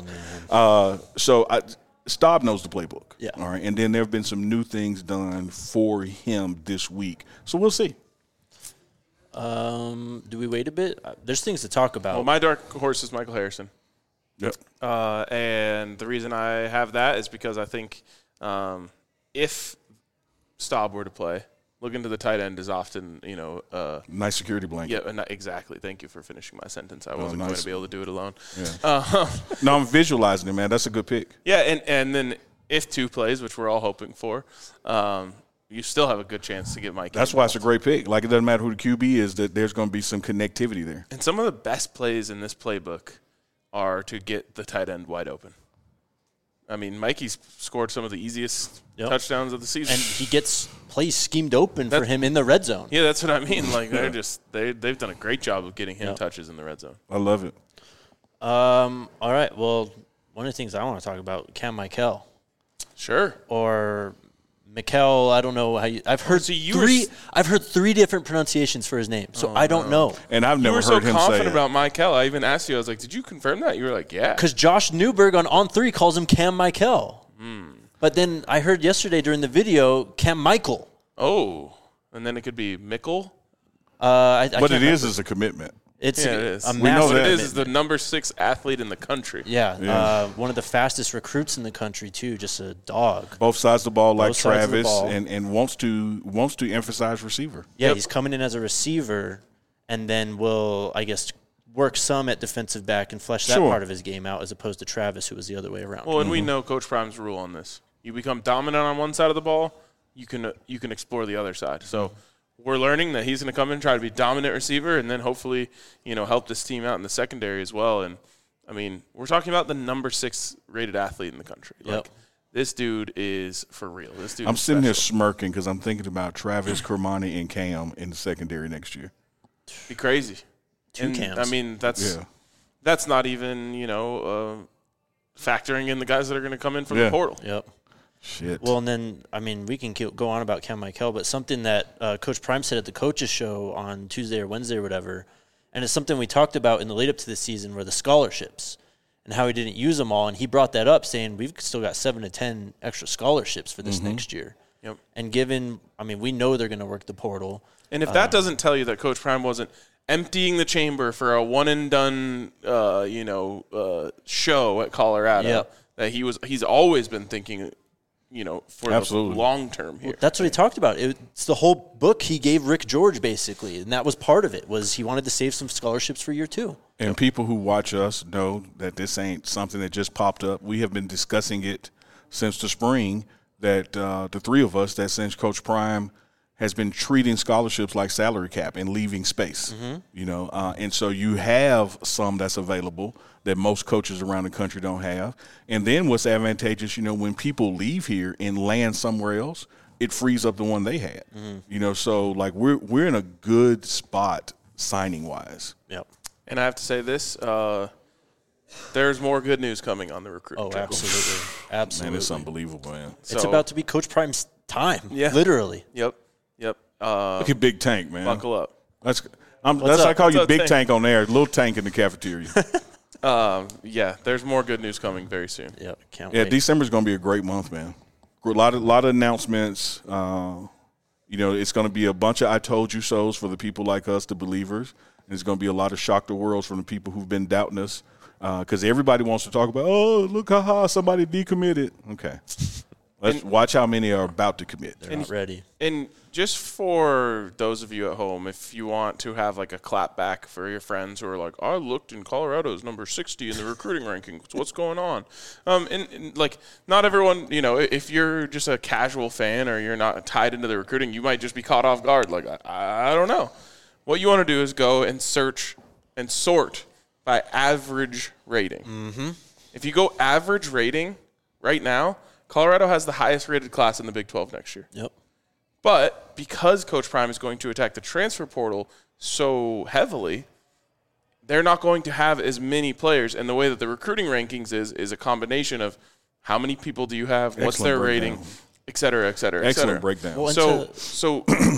Speaker 3: Staub knows the playbook.
Speaker 1: Yeah.
Speaker 3: All right. And then there have been some new things done for him this week. So we'll see.
Speaker 1: Do we wait a bit? There's things to talk about.
Speaker 2: Well, my dark horse is Michael Harrison.
Speaker 3: Yep.
Speaker 2: And the reason I have that is because I think if Staub were to play, looking to the tight end is often,
Speaker 3: Nice security blanket.
Speaker 2: yeah, exactly. Thank you for finishing my sentence. I wasn't
Speaker 3: nice.
Speaker 2: going to be able to do it alone.
Speaker 3: Yeah. No, I'm visualizing it, man. That's a good pick.
Speaker 2: Yeah, and then if 2 plays, which we're all hoping for, you still have a good chance to get Mike.
Speaker 3: That's why it's a great pick. Like, it doesn't matter who the QB is, that there's going to be some connectivity there.
Speaker 2: And some of the best plays in this playbook are to get the tight end wide open. I mean, Mikey's scored some of the easiest touchdowns of the season.
Speaker 1: And he gets plays schemed open for him in the red zone.
Speaker 2: Yeah, that's what I mean. Like, they've done a great job of getting him touches in the red zone.
Speaker 3: I love it.
Speaker 1: All right. Well, one of the things I want to talk about, Cam Michael.
Speaker 2: Sure.
Speaker 1: Or Mikel, I don't know how you. I've heard I've heard 3 different pronunciations for his name, so I don't know.
Speaker 3: And I've never heard him say it.
Speaker 2: You were so confident about Michael. I even asked you. I was like, "Did you confirm that?" You were like, "Yeah."
Speaker 1: Because Josh Newberg on 3 calls him Cam Michael. But then I heard yesterday during the video Cam Michael.
Speaker 2: Oh, and then it could be Mickle.
Speaker 3: But it is a commitment.
Speaker 1: It's
Speaker 2: it is.
Speaker 1: a
Speaker 3: We know
Speaker 1: massive
Speaker 3: that.
Speaker 2: It is
Speaker 1: commitment.
Speaker 2: the number 6 athlete in the country.
Speaker 1: Yeah. One of the fastest recruits in the country too. Just a dog.
Speaker 3: Both sides of the ball, like
Speaker 1: Both sides of the
Speaker 3: Travis,
Speaker 1: ball.
Speaker 3: and wants to emphasize receiver.
Speaker 1: Yeah, he's coming in as a receiver, and then will, I guess, work some at defensive back and flesh that
Speaker 3: Sure.
Speaker 1: part of his game out, as opposed to Travis, who was the other way around.
Speaker 2: Well, and we know Coach Prime's rule on this. You become dominant on one side of the ball, you can explore the other side. So we're learning that he's going to come in and try to be dominant receiver, and then hopefully, help this team out in the secondary as well. And I mean, we're talking about the number 6 rated athlete in the country.
Speaker 1: Yep.
Speaker 2: Like, this dude is for real. This dude.
Speaker 3: I'm
Speaker 2: is
Speaker 3: sitting here
Speaker 2: special.
Speaker 3: smirking because I'm thinking about Travis, Kermani, and Cam in the secondary next year.
Speaker 2: Be crazy.
Speaker 1: 2 Cams.
Speaker 2: I mean, that's not even factoring in the guys that are going to come in from the portal.
Speaker 1: Yep.
Speaker 3: Shit.
Speaker 1: Well, and then, I mean, we can go on about Cam Michael, but something that Coach Prime said at the coaches show on Tuesday or Wednesday or whatever, and it's something we talked about in the lead up to this season, were the scholarships and how he didn't use them all. And he brought that up, saying we've still got 7 to 10 extra scholarships for this next year.
Speaker 2: Yep.
Speaker 1: And given, I mean, we know they're going to work the portal.
Speaker 2: And if that doesn't tell you that Coach Prime wasn't emptying the chamber for a one and done, show at Colorado, that he's always been thinking, for
Speaker 3: Absolutely.
Speaker 2: the long term here.
Speaker 1: That's what he talked about. It's the whole book he gave Rick George, basically, and that was part of it, was he wanted to save some scholarships for year 2.
Speaker 3: And people who watch us know that this ain't something that just popped up. We have been discussing it since the spring, that the 3 of us, that since Coach Prime has been treating scholarships like salary cap and leaving space, and so you have some that's available that most coaches around the country don't have. And then what's advantageous, when people leave here and land somewhere else, it frees up the one they had. So like we're in a good spot signing wise.
Speaker 1: Yep.
Speaker 2: And I have to say this, there's more good news coming on the recruiting
Speaker 1: Oh,
Speaker 2: trail.
Speaker 1: absolutely. Absolutely.
Speaker 3: Man, it's unbelievable, man.
Speaker 1: It's about to be Coach Prime's time,
Speaker 2: Yeah.
Speaker 1: literally.
Speaker 2: Yep.
Speaker 3: Look at Big Tank, man.
Speaker 2: Buckle up.
Speaker 3: That's
Speaker 1: up?
Speaker 3: I call
Speaker 2: What's
Speaker 3: you
Speaker 2: up,
Speaker 3: Big
Speaker 2: Tank?
Speaker 3: Tank on there. Little Tank in the cafeteria.
Speaker 2: There's more good news coming very soon.
Speaker 1: Yep. Can't
Speaker 3: Yeah,
Speaker 1: wait.
Speaker 3: December's going to be a great month, man. A lot of announcements. It's going to be a bunch of I told you so's for the people like us, the believers. And it's going to be a lot of shock the worlds from the people who've been doubting us. Because everybody wants to talk about, look, somebody decommitted. Okay. Let's watch how many are about to commit.
Speaker 1: They're not ready.
Speaker 2: And just for those of you at home, if you want to have like a clap back for your friends who are like, I looked in Colorado's number 60 in the recruiting rankings. What's going on? And like, not everyone, if you're just a casual fan or you're not tied into the recruiting, you might just be caught off guard. Like, I don't know. What you want to do is go and search and sort by average rating. Mm-hmm. If you go average rating right now, Colorado has the highest rated class in the Big 12 next year.
Speaker 1: Yep.
Speaker 2: But because Coach Prime is going to attack the transfer portal so heavily, they're not going to have as many players. And the way that the recruiting rankings is a combination of how many people do you have, what's
Speaker 3: Excellent
Speaker 2: their
Speaker 3: breakdown.
Speaker 2: rating, et cetera, et cetera, et
Speaker 3: Excellent
Speaker 2: cetera.
Speaker 3: breakdown.
Speaker 1: Well,
Speaker 2: So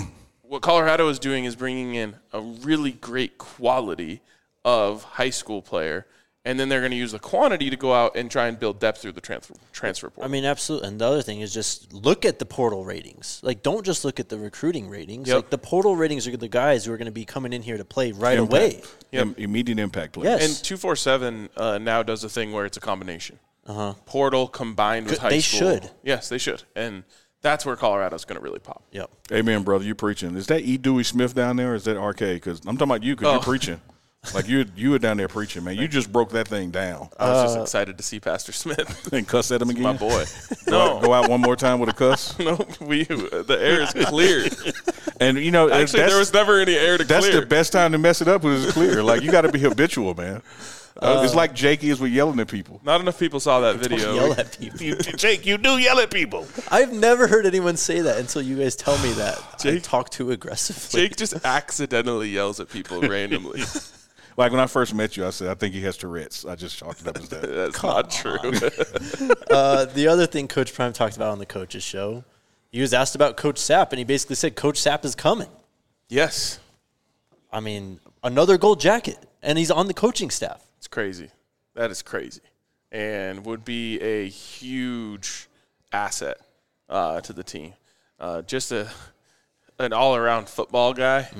Speaker 2: what Colorado is doing is bringing in a really great quality of high school player, and then they're going to use the quantity to go out and try and build depth through the transfer portal.
Speaker 1: I mean, absolutely. And the other thing is just look at the portal ratings. Like, don't just look at the recruiting ratings.
Speaker 2: Yep.
Speaker 1: Like, the portal ratings are the guys who are going to be coming in here to play right away.
Speaker 3: Immediate impact players.
Speaker 1: Yes.
Speaker 2: And 247 now does a thing where it's a combination. Portal combined with high
Speaker 1: They
Speaker 2: school.
Speaker 1: should.
Speaker 2: Yes, they should. And that's where Colorado's going to really pop.
Speaker 1: Yep.
Speaker 3: Amen, brother. You preaching. Is that E. Dewey Smith down there or is that RK? Because I'm talking about you because you're preaching. Like, you were down there preaching, man. You just broke that thing down.
Speaker 2: I was just excited to see Pastor Smith.
Speaker 3: And cuss at him again?
Speaker 2: My boy.
Speaker 3: Go out one more time with a cuss?
Speaker 2: No, the air is clear.
Speaker 3: And, you know,
Speaker 2: Actually, there was never any air to
Speaker 3: that's
Speaker 2: clear.
Speaker 3: the best time to mess it up when it's clear. Like, you got to be habitual, man. It's like Jake is with yelling at people.
Speaker 2: Not enough people saw that video.
Speaker 1: Yell at people.
Speaker 3: Jake, you do yell at people.
Speaker 1: I've never heard anyone say that until you guys tell me that. I
Speaker 2: Jake-
Speaker 1: talk too aggressively.
Speaker 2: Jake just accidentally yells at people randomly.
Speaker 3: Like, when I first met you, I said, I think he has Tourette's. I just chalked it up as that.
Speaker 2: That's not true.
Speaker 1: The other thing Coach Prime talked about on the coach's show, he was asked about Coach Sapp, and he basically said Coach Sapp is coming.
Speaker 2: Yes.
Speaker 1: I mean, another gold jacket, and he's on the coaching staff.
Speaker 2: It's crazy. That is crazy. And would be a huge asset to the team. Just an all-around football guy,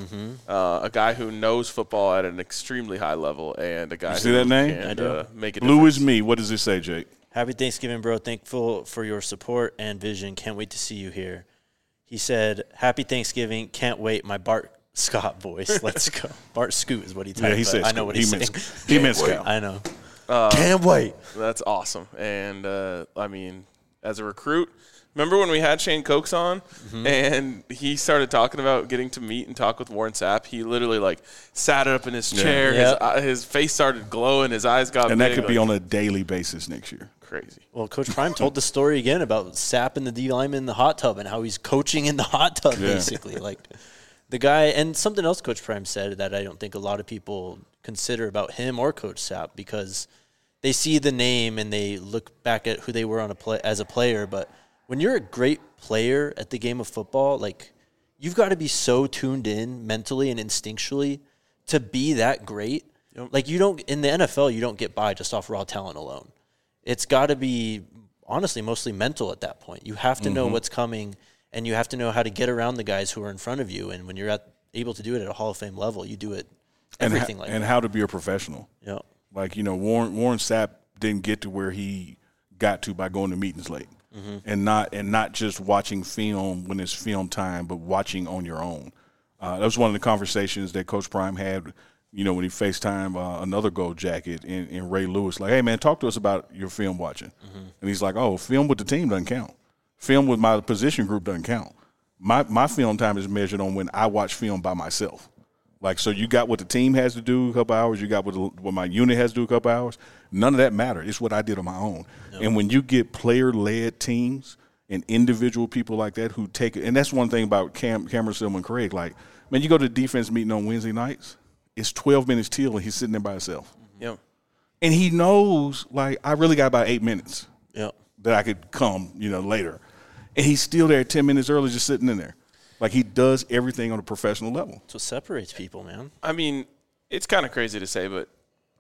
Speaker 2: a guy who knows football at an extremely high level, and a guy
Speaker 3: see
Speaker 2: who
Speaker 3: that name?
Speaker 2: can
Speaker 1: I do.
Speaker 2: make a
Speaker 3: Blue
Speaker 2: difference.
Speaker 3: is me. What does it say, Jake?
Speaker 1: Happy Thanksgiving, bro. Thankful for your support and vision. Can't wait to see you here. He said, Happy Thanksgiving. Can't wait. My Bart Scott voice. Let's go. Bart Scoot is what he typed.
Speaker 3: Yeah, he said
Speaker 1: I know what he's saying.
Speaker 3: He meant Scout.
Speaker 1: I know. Can't wait.
Speaker 2: That's awesome. And, I mean, as a recruit, remember when we had Shane Cokes on and he started talking about getting to meet and talk with Warren Sapp? He literally, like, sat up in his chair.
Speaker 1: Yeah.
Speaker 2: His face started glowing. His eyes got
Speaker 3: And
Speaker 2: big.
Speaker 3: that could be
Speaker 2: like,
Speaker 3: on a daily basis next year.
Speaker 2: crazy.
Speaker 1: Well, Coach Prime told the story again about Sapp and the D lineman in the hot tub and how he's coaching in the hot tub, basically. Like, the guy, and something else Coach Prime said that I don't think a lot of people consider about him or Coach Sapp, because they see the name and they look back at who they were on as a player. But when you're a great player at the game of football, like, you've got to be so tuned in mentally and instinctually to be that great.
Speaker 2: Yep.
Speaker 1: Like, you don't, in the NFL, you don't get by just off raw talent alone. It's got to be, honestly, mostly mental at that point. You have to know what's coming, and you have to know how to get around the guys who are in front of you. And when you're able to do it at a Hall of Fame level, you do it everything like
Speaker 3: and
Speaker 1: that.
Speaker 3: how to be a professional.
Speaker 1: Yeah.
Speaker 3: Like, you know, Warren Sapp didn't get to where he got to by going to meetings late, and not just watching film when it's film time, but watching on your own. That was one of the conversations that Coach Prime had, you know, when he FaceTimed another gold jacket in Ray Lewis. Like, hey, man, talk to us about your film watching. And he's like, oh, film with the team doesn't count. Film with my position group doesn't count. My film time is measured on when I watch film by myself. Like, so you got what the team has to do a couple hours. You got what my unit has to do a couple hours. None of that mattered. It's what I did on my own. No. And when you get player-led teams and individual people like that who take it, and that's one thing about Cameron Silva and Craig. Like, man, you go to the defense meeting on Wednesday nights, it's 12 minutes till, and he's sitting there by himself.
Speaker 2: Yep.
Speaker 3: And he knows, like, I really got about 8 minutes that I could come, you know, later. And he's still there 10 minutes early just sitting in there. Like, he does everything on a professional level.
Speaker 1: That's what separates people, man.
Speaker 2: I mean, it's kind of crazy to say, but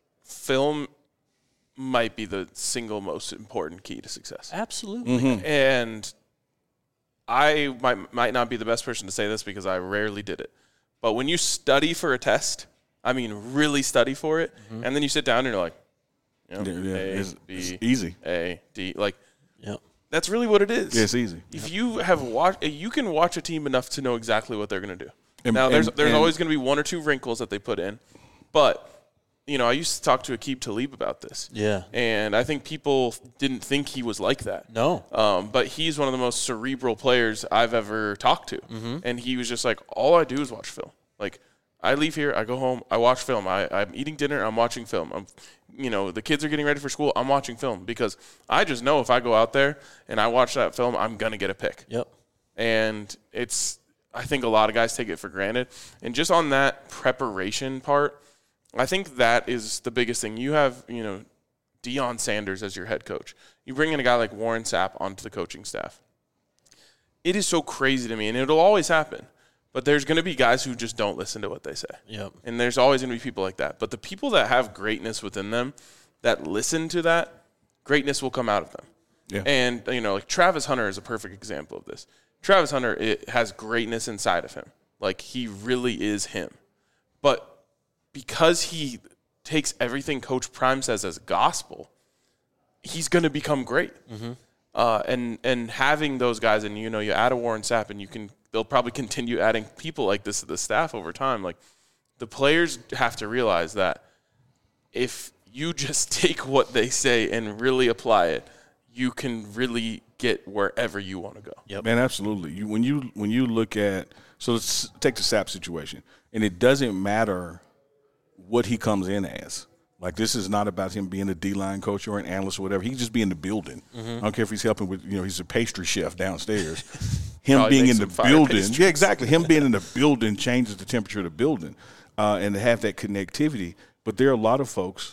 Speaker 2: film might be the single most important key to success.
Speaker 1: Absolutely.
Speaker 2: And I might not be the best person to say this because I rarely did it. But when you study for a test, I mean really study for it, and then you sit down and you're like, you know,
Speaker 3: it's easy.
Speaker 2: A, D. Like,
Speaker 1: Yep.
Speaker 2: that's really what it is.
Speaker 3: Yeah, it's easy.
Speaker 2: If you have you can watch a team enough to know exactly what they're going to do.
Speaker 3: And,
Speaker 2: now, there's always going to be one or two wrinkles that they put in, but you know, I used to talk to Aqib Talib about this.
Speaker 1: Yeah.
Speaker 2: And I think people didn't think he was like that.
Speaker 1: No.
Speaker 2: But he's one of the most cerebral players I've ever talked to. And he was just like, all I do is watch film. Like, I leave here, I go home, I watch film. I'm eating dinner, I'm watching film. You know, the kids are getting ready for school, I'm watching film because I just know if I go out there and I watch that film, I'm going to get a pick.
Speaker 1: Yep.
Speaker 2: And I think a lot of guys take it for granted. And just on that preparation part, I think that is the biggest thing. You have, you know, Deion Sanders as your head coach. You bring in a guy like Warren Sapp onto the coaching staff. It is so crazy to me, and it'll always happen. But there's going to be guys who just don't listen to what they say.
Speaker 1: Yep.
Speaker 2: And there's always going to be people like that. But the people that have greatness within them, that listen to that, greatness will come out of them.
Speaker 3: Yeah.
Speaker 2: And, like Travis Hunter is a perfect example of this. Travis Hunter has greatness inside of him. Like, he really is him. But because he takes everything Coach Prime says as gospel, he's going to become great. Mm-hmm. And having those guys, and, you add a Warren Sapp, and they'll probably continue adding people like this to the staff over time. Like, the players have to realize that if you just take what they say and really apply it, you can really get wherever you want to go.
Speaker 1: Yep.
Speaker 3: Man, absolutely. When you look at – so let's take the Sapp situation. And it doesn't matter what he comes in as. Like, this is not about him being a D-line coach or an analyst or whatever. He can just be in the building. Mm-hmm. I don't care if he's helping with, he's a pastry chef downstairs. Him
Speaker 2: Probably
Speaker 3: being in the building.
Speaker 2: Pastries.
Speaker 3: Yeah, exactly. Him being in the building changes the temperature of the building and to have that connectivity. But there are a lot of folks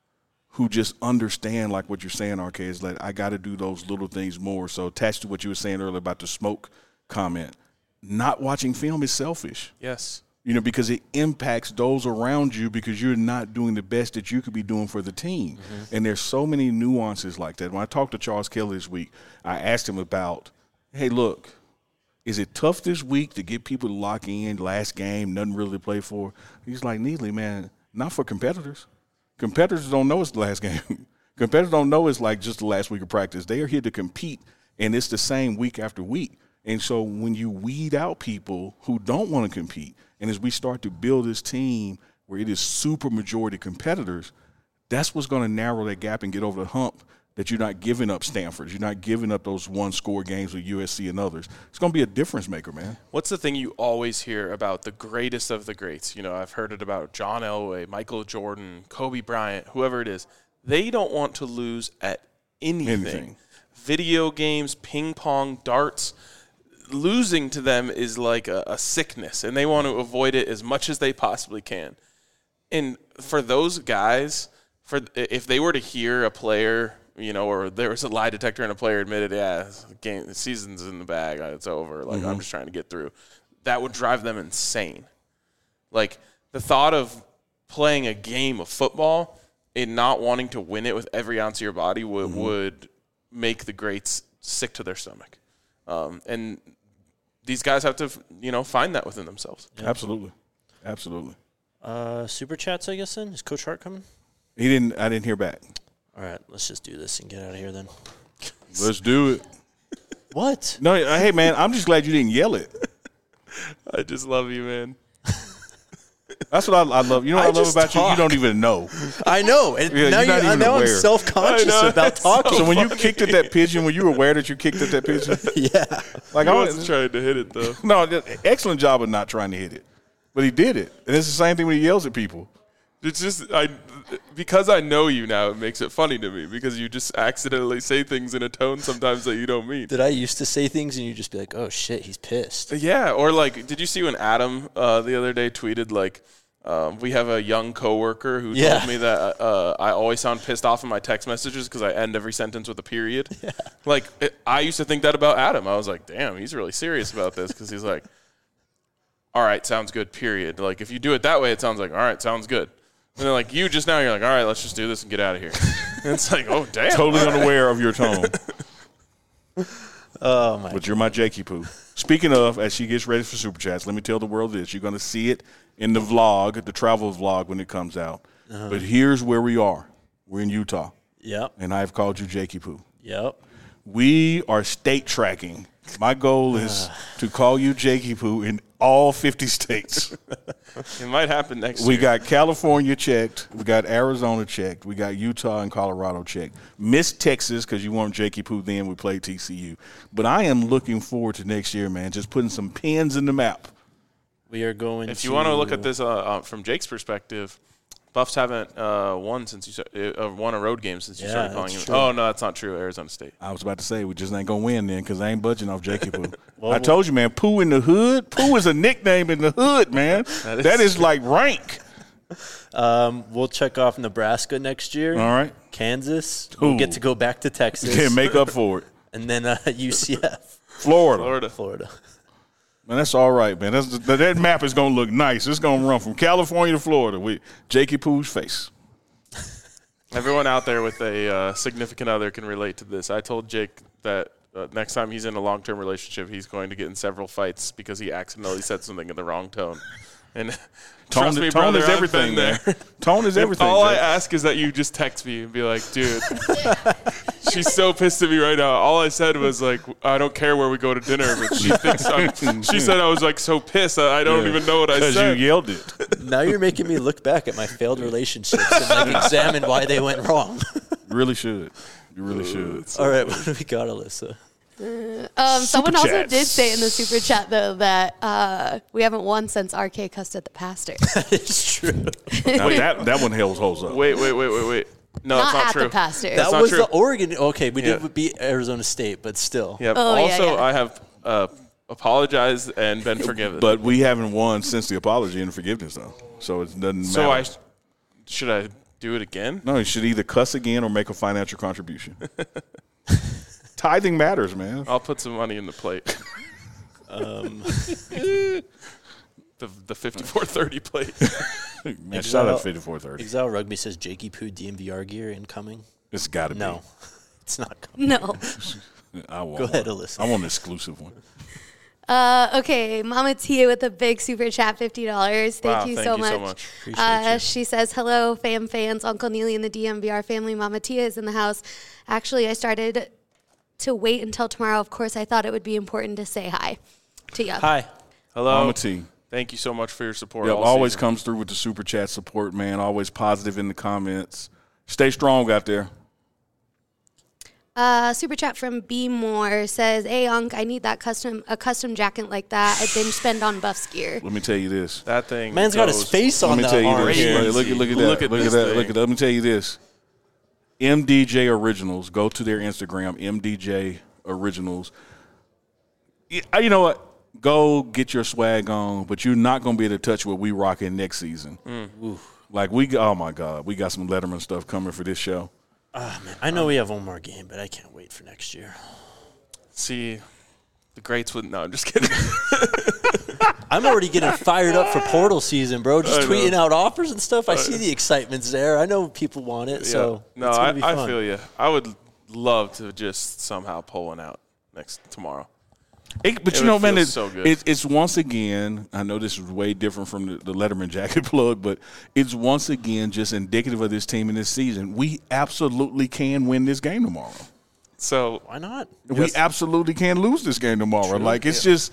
Speaker 3: who just understand, like what you're saying, RK, is like, I got to do those little things more. So attached to what you were saying earlier about the smoke comment, not watching film is selfish.
Speaker 2: Yes.
Speaker 3: Because it impacts those around you because you're not doing the best that you could be doing for the team. Mm-hmm. And there's so many nuances like that. When I talked to Charles Kelly this week, I asked him about, hey, look, is it tough this week to get people to lock in, last game, nothing really to play for? He's like, Neely, man, not for competitors. Competitors don't know it's the last game. Competitors don't know it's like just the last week of practice. They are here to compete, and it's the same week after week. And so when you weed out people who don't want to compete, and as we start to build this team where it is super majority competitors, that's what's going to narrow that gap and get over the hump that you're not giving up Stanford. You're not giving up those one-score games with USC and others. It's going to be a difference maker, man.
Speaker 2: What's the thing you always hear about the greatest of the greats? I've heard it about John Elway, Michael Jordan, Kobe Bryant, whoever it is. They don't want to lose at anything. Video games, ping pong, darts. Losing to them is like a sickness, and they want to avoid it as much as they possibly can. And for those guys, if they were to hear a player, or there was a lie detector and a player admitted, the season's in the bag, it's over, like, I'm just trying to get through, that would drive them insane. Like, the thought of playing a game of football and not wanting to win it with every ounce of your body would make the greats sick to their stomach. And these guys have to, find that within themselves.
Speaker 3: Yeah. Absolutely.
Speaker 1: Super chats, I guess, then? Is Coach Hart coming?
Speaker 3: I didn't hear back.
Speaker 1: All right, let's just do this and get out of here then.
Speaker 3: Let's do it.
Speaker 1: What?
Speaker 3: No, hey, man, I'm just glad you didn't yell it.
Speaker 2: I just love you, man.
Speaker 3: That's what I love. You know what I love about you? You don't even know.
Speaker 1: I know. And now I'm self-conscious about talking.
Speaker 3: So when you kicked at that pigeon, were you aware that you kicked at that pigeon?
Speaker 1: Yeah.
Speaker 2: Like, I wasn't trying to hit it, though.
Speaker 3: No, excellent job of not trying to hit it. But he did it. And it's the same thing when he yells at people.
Speaker 2: It's just, because I know you now, it makes it funny to me because you just accidentally say things in a tone sometimes that you don't mean.
Speaker 1: Did I used to say things and you just be like, oh, shit, he's pissed?
Speaker 2: Yeah, or like, did you see when Adam the other day tweeted, like, we have a young coworker who told me that I always sound pissed off in my text messages because I end every sentence with a period. Yeah. Like, I used to think that about Adam. I was like, damn, he's really serious about this because he's like, all right, sounds good, period. Like, if you do it that way, it sounds like, all right, sounds good. And then, like, you just now, you're like, all right, let's just do this and get out of here. And it's like, oh, damn.
Speaker 3: Totally unaware of your tone.
Speaker 1: Oh, my
Speaker 3: But you're my Jakey Poo. Speaking of, as she gets ready for Super Chats, let me tell the world this. You're going to see it in the vlog, the travel vlog when it comes out. Uh-huh. But here's where we are. We're in Utah.
Speaker 1: Yep.
Speaker 3: And I've called you Jakey Poo.
Speaker 1: Yep.
Speaker 3: We are state tracking. My goal is to call you Jakey Poo in all 50 states.
Speaker 2: It might happen next year.
Speaker 3: We got California checked. We got Arizona checked. We got Utah and Colorado checked. Missed Texas because you weren't Jakey Poo then. We played TCU. But I am looking forward to next year, man, just putting some pins in the map.
Speaker 1: We are going
Speaker 2: If you want to look at this from Jake's perspective, Buffs haven't won since you won a road game since you started calling him.
Speaker 1: True.
Speaker 2: Oh, no, that's not true. Arizona State.
Speaker 3: I was about to say, we just ain't going to win then because I ain't budging off Jakey Poo. I told you, man, Poo in the hood. Poo is a nickname in the hood, man. That is like rank.
Speaker 1: We'll check off Nebraska next year.
Speaker 3: All right.
Speaker 1: Kansas. We'll get to go back to Texas.
Speaker 3: Yeah, make up for it.
Speaker 1: And then UCF.
Speaker 3: Florida. Man, that's all right, man. That map is going to look nice. It's going to run from California to Florida with Jakey Poo's face.
Speaker 2: Everyone out there with a significant other can relate to this. I told Jake that next time he's in a long-term relationship, he's going to get in several fights because he accidentally said something in the wrong tone. And
Speaker 3: Tone is everything, man. Tone is everything.
Speaker 2: All I ask is that you just text me and be like, dude, she's so pissed at me right now. All I said was like, I don't care where we go to dinner, but she thinks she said I was like so pissed. I don't even know what I said.
Speaker 3: Because you yelled it.
Speaker 1: Now you're making me look back at my failed relationships and examine why they went wrong.
Speaker 3: You really should. You really should.
Speaker 1: All right, what do we got, Alyssa?
Speaker 6: Someone also
Speaker 3: chats.
Speaker 6: did say in the super chat though that we haven't won since RK cussed at the pastor.
Speaker 1: It's true.
Speaker 3: Now that one holds up.
Speaker 2: Wait. No,
Speaker 6: Not
Speaker 2: it's not
Speaker 6: at
Speaker 2: true.
Speaker 6: the pastor.
Speaker 1: That
Speaker 2: not
Speaker 1: was
Speaker 2: true.
Speaker 1: the Oregon. Okay, we did beat Arizona State, but still.
Speaker 2: Yep.
Speaker 6: Oh, yeah,
Speaker 2: also,
Speaker 6: yeah.
Speaker 2: I have apologized and been forgiven.
Speaker 3: But we haven't won since the apology and forgiveness, though. So it doesn't matter.
Speaker 2: So should I do it again?
Speaker 3: No, you should either cuss again or make a financial contribution. Tithing matters, man.
Speaker 2: I'll put some money in the plate. The 5430 plate.
Speaker 3: Man, shout out 5430.
Speaker 1: Exile Rugby says Jakey Poo DMVR gear incoming.
Speaker 3: It's got to be.
Speaker 1: No, it's not coming.
Speaker 6: No.
Speaker 3: I want
Speaker 1: Go ahead,
Speaker 3: one.
Speaker 1: Alyssa.
Speaker 3: I want an exclusive one.
Speaker 6: Okay, Mama Tia with a big super chat, $50. Thank you so much.
Speaker 1: Appreciate you.
Speaker 6: She says, hello, fans. Uncle Neely and the DMVR family. Mama Tia is in the house. Actually, I started to wait until tomorrow. Of course, I thought it would be important to say hi to you.
Speaker 1: Hi.
Speaker 2: Hello.
Speaker 3: Mama T.
Speaker 2: Thank you so much for your support.
Speaker 3: Yep,
Speaker 2: all
Speaker 3: always
Speaker 2: season.
Speaker 3: comes through with the super chat support, man. Always positive in the comments. Stay strong out there.
Speaker 6: Super chat from B Moore says, hey, Unc, I need that custom jacket like that. I binge spend on Buffs gear.
Speaker 3: Let me tell you this.
Speaker 2: That thing.
Speaker 1: Man's got his
Speaker 2: goes-
Speaker 1: face
Speaker 3: Let
Speaker 1: on
Speaker 3: me
Speaker 1: the
Speaker 3: tell you
Speaker 1: orange.
Speaker 3: this.
Speaker 2: Crazy.
Speaker 3: Look at
Speaker 2: Look
Speaker 3: that.
Speaker 2: at
Speaker 3: Look at
Speaker 2: this
Speaker 3: that.
Speaker 2: thing.
Speaker 3: Look at that. Let me tell you this. MDJ Originals. Go to their Instagram, MDJ Originals. You know what? Go get your swag on, but you're not going to be able to touch what we rocking next season. Like oh my God, we got some Letterman stuff coming for this show.
Speaker 1: Man, I know we have one more game, but I can't wait for next year.
Speaker 2: See, the greats wouldn't. No, I'm just kidding.
Speaker 1: I'm already getting fired up for portal season, bro. Just
Speaker 2: I know.
Speaker 1: tweeting out offers and stuff. I see the excitement's there. I know people want it, so
Speaker 2: no,
Speaker 1: it's gonna be fun.
Speaker 2: I feel you. I would love to just somehow pull one out tomorrow.
Speaker 3: But
Speaker 2: It
Speaker 3: you know,
Speaker 2: would
Speaker 3: man,
Speaker 2: feel
Speaker 3: it's,
Speaker 2: so good.
Speaker 3: it's once again, I know this is way different from the Letterman jacket plug, but it's once again just indicative of this team in this season. We absolutely can win this game tomorrow.
Speaker 2: So
Speaker 1: Why not?
Speaker 3: We absolutely can lose this game tomorrow. Like, it's just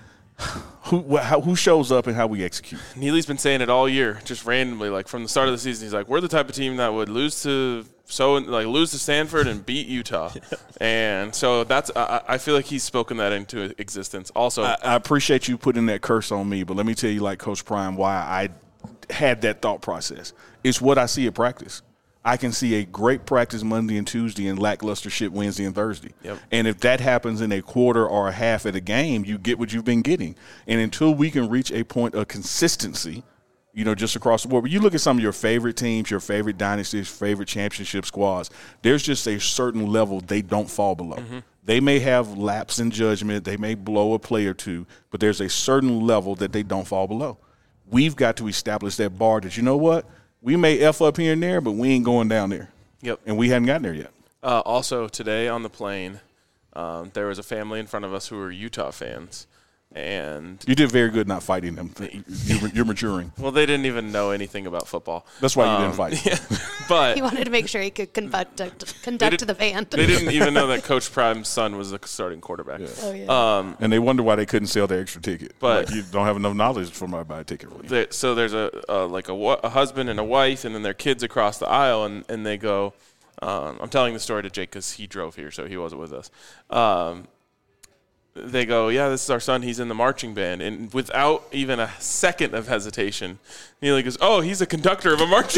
Speaker 3: who shows up and how we execute.
Speaker 2: Neely's been saying it all year, just randomly. Like from the start of the season, he's like, "We're the type of team that would lose to Stanford and beat Utah," and so that's. I feel like he's spoken that into existence. Also,
Speaker 3: I appreciate you putting that curse on me, but let me tell you, like Coach Prime, why I had that thought process. It's what I see at practice. I can see a great practice Monday and Tuesday and lackluster shit Wednesday and Thursday.
Speaker 2: Yep.
Speaker 3: And if that happens in a quarter or a half of a game, you get what you've been getting. And until we can reach a point of consistency, just across the board. But you look at some of your favorite teams, your favorite dynasties, favorite championship squads, there's just a certain level they don't fall below. Mm-hmm. They may have lapse in judgment. They may blow a play or two, but there's a certain level that they don't fall below. We've got to establish that bar that, you know what? We may F up here and there, but we ain't going down there.
Speaker 2: Yep.
Speaker 3: And we hadn't gotten there yet.
Speaker 2: Also, today on the plane, there was a family in front of us who were Utah fans. And
Speaker 3: You did very good not fighting them. You're maturing.
Speaker 2: well, they didn't even know anything about football.
Speaker 3: That's why you didn't fight.
Speaker 2: Yeah, but
Speaker 6: He wanted to make sure he could conduct the band.
Speaker 2: they didn't even know that Coach Prime's son was the starting quarterback.
Speaker 6: Oh, yeah.
Speaker 3: And they wonder why they couldn't sell their extra ticket.
Speaker 2: But-
Speaker 3: Like, you don't have enough knowledge for my buy a ticket for you.
Speaker 2: So there's a husband and a wife, and then their kids across the aisle, and they go. I'm telling the story to Jake because he drove here, so he wasn't with us. They go, yeah, this is our son. He's in the marching band. And without even a second of hesitation, Neely goes, oh, he's a conductor of a marching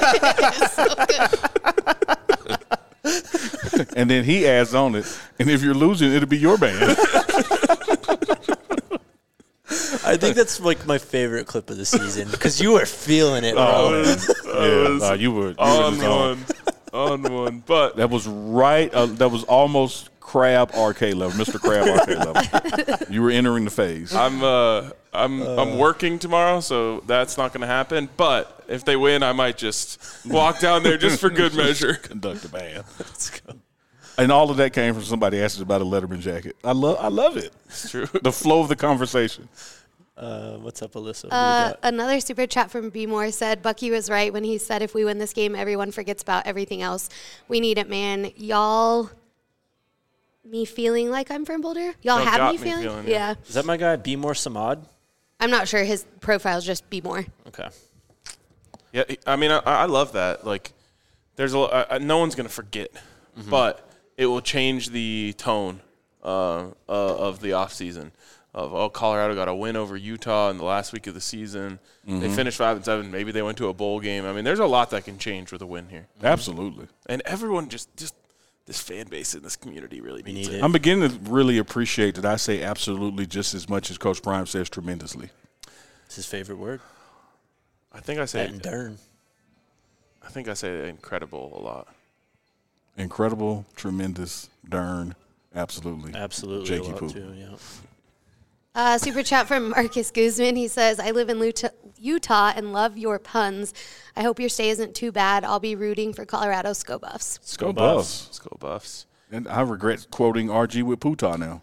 Speaker 2: band.
Speaker 3: And then he adds on it, and if you're losing, it'll be your band.
Speaker 1: I think that's like my favorite clip of the season because you were feeling it, bro.
Speaker 3: You were
Speaker 2: on one. But
Speaker 3: That was right. That was almost Crab RK level, Mr. Crab RK level. You were entering the phase.
Speaker 2: I'm working tomorrow, so that's not going to happen. But if they win, I might just walk down there just for good measure.
Speaker 3: Conduct a band. Let's go. And all of that came from somebody asking about a Letterman jacket. I love it.
Speaker 2: It's true.
Speaker 3: The flow of the conversation.
Speaker 1: What's up, Alyssa? What do we got?
Speaker 6: Another super chat from B. Moore said, Bucky was right when he said if we win this game, everyone forgets about everything else. We need it, man. Y'all, me feeling like I'm from Boulder? Y'all
Speaker 2: Y'all
Speaker 6: have
Speaker 2: got
Speaker 6: me
Speaker 2: me
Speaker 6: feeling?
Speaker 2: feeling,
Speaker 6: Yeah.
Speaker 1: Is that my guy, B. More Samad?
Speaker 6: I'm not sure. His profile's just B. Moore.
Speaker 1: Okay.
Speaker 2: Yeah, I mean, I love that. Like, there's no one's going to forget, but it will change the tone of the offseason. Colorado got a win over Utah in the last week of the season. They finished 5-7. Maybe they went to a bowl game. I mean, there's a lot that can change with a win here.
Speaker 3: Absolutely.
Speaker 2: And everyone just this fan base in this community really needs it.
Speaker 3: I'm beginning to really appreciate that I say absolutely just as much as Coach Prime says tremendously.
Speaker 1: It's his favorite word.
Speaker 2: I think I say
Speaker 1: And Dern.
Speaker 2: I think I say incredible a lot.
Speaker 3: Incredible, tremendous, darn, absolutely.
Speaker 1: Absolutely.
Speaker 3: Jakey
Speaker 1: a lot
Speaker 3: Poop.
Speaker 1: too, yeah.
Speaker 6: Super chat from Marcus Guzman. He says, I live in Utah and love your puns. I hope your stay isn't too bad. I'll be rooting for Colorado Sko Buffs.
Speaker 3: Go Buffs.
Speaker 2: Let's go Buffs.
Speaker 3: And I regret quoting RG with Putah now.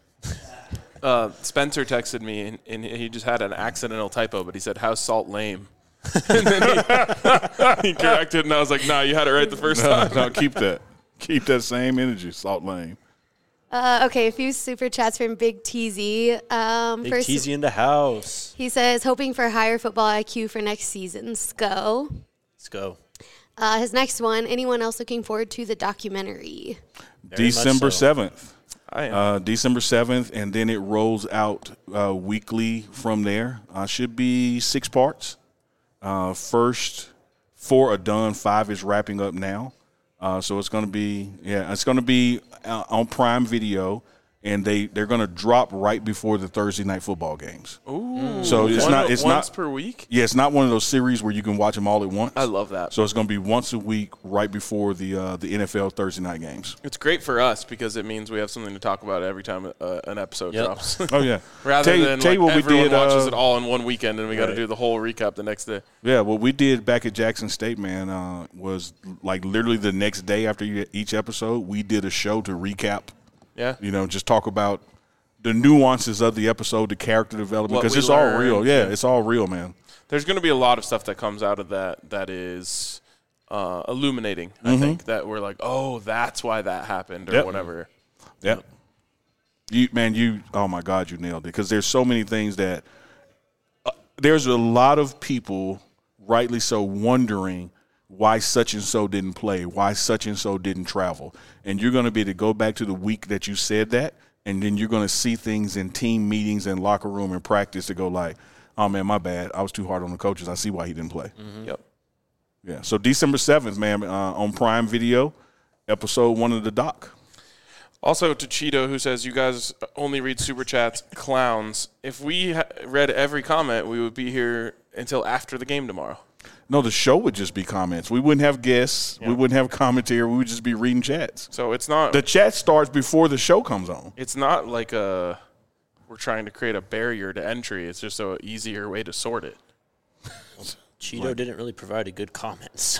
Speaker 2: Spencer texted me, and he just had an accidental typo, but he said, how's Salt lame? And then he corrected, and I was like, nah, you had it right the first time.
Speaker 3: No, keep that. Keep that same energy, Salt Lane.
Speaker 6: Okay, a few super chats from Big TZ.
Speaker 1: Big TZ in the house.
Speaker 6: He says, hoping for higher football IQ for next season. Sko.
Speaker 1: Let's go.
Speaker 6: His next one, anyone else looking forward to the documentary?
Speaker 1: Very
Speaker 3: December
Speaker 1: much so.
Speaker 3: 7th.
Speaker 2: I am.
Speaker 3: December 7th, and then it rolls out weekly from there. Should be 6 parts. First 4 are done. 5 is wrapping up now. So it's going to be, on Prime Video, and they're going to drop right before the Thursday night football games.
Speaker 2: Ooh.
Speaker 3: So it's
Speaker 2: once per week?
Speaker 3: Yeah, it's not one of those series where you can watch them all at once.
Speaker 2: I love that.
Speaker 3: So it's going to be once a week right before the NFL Thursday night games.
Speaker 2: It's great for us because it means we have something to talk about every time an episode drops.
Speaker 3: Oh, yeah.
Speaker 2: Rather than
Speaker 3: tell you what
Speaker 2: everyone
Speaker 3: we did,
Speaker 2: watches it all in one weekend and we got to
Speaker 3: right.
Speaker 2: do the whole recap the next day.
Speaker 3: Yeah, what we did back at Jackson State, man, was like literally the next day after each episode, we did a show to recap.
Speaker 2: Yeah.
Speaker 3: Just talk about the nuances of the episode, the character development, because it's all real. Yeah, it's all real, man.
Speaker 2: There's going to be a lot of stuff that comes out of that is illuminating, I think, that we're like, oh, that's why that happened or whatever.
Speaker 3: Yep. Oh, my God, you nailed it. Because there's so many things that there's a lot of people, rightly so, wondering why such and so didn't play, why such and so didn't travel. And you're going to be able to go back to the week that you said that, and then you're going to see things in team meetings and locker room and practice to go like, oh, man, my bad. I was too hard on the coaches. I see why he didn't play.
Speaker 2: Yep.
Speaker 3: Yeah. So December 7th, man, on Prime Video, episode 1 of the doc.
Speaker 2: Also to Cheeto, who says, you guys only read Super Chats, clowns. If we read every comment, we would be here until after the game tomorrow.
Speaker 3: No, the show would just be comments. We wouldn't have guests.
Speaker 2: Yeah.
Speaker 3: We wouldn't have commentary. We would just be reading chats.
Speaker 2: So it's not
Speaker 3: The chat starts before the show comes on.
Speaker 2: it's not like we're trying to create a barrier to entry. It's just an easier way to sort it.
Speaker 1: Cheeto didn't really provide a good comment, so.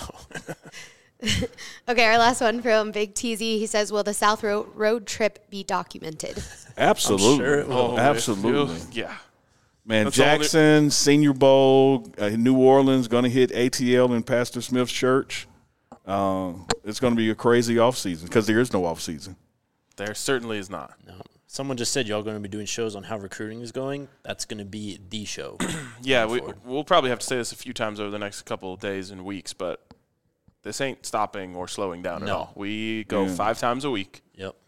Speaker 6: Okay, our last one from Big TZ. He says, will the South Road trip be documented?
Speaker 3: Absolutely.
Speaker 1: sure it will.
Speaker 3: Absolutely.
Speaker 2: Yeah.
Speaker 3: Man,
Speaker 2: That's
Speaker 3: Jackson, Senior Bowl, New Orleans, going to hit ATL in Pastor Smith's church. It's going to be a crazy offseason because there is no offseason.
Speaker 2: There certainly is not.
Speaker 1: No. Someone just said y'all going to be doing shows on how recruiting is going. That's going to be the show.
Speaker 2: Yeah, we'll probably have to say this a few times over the next couple of days and weeks, but this ain't stopping or slowing down at all. We go 5 times a week.
Speaker 1: Yep.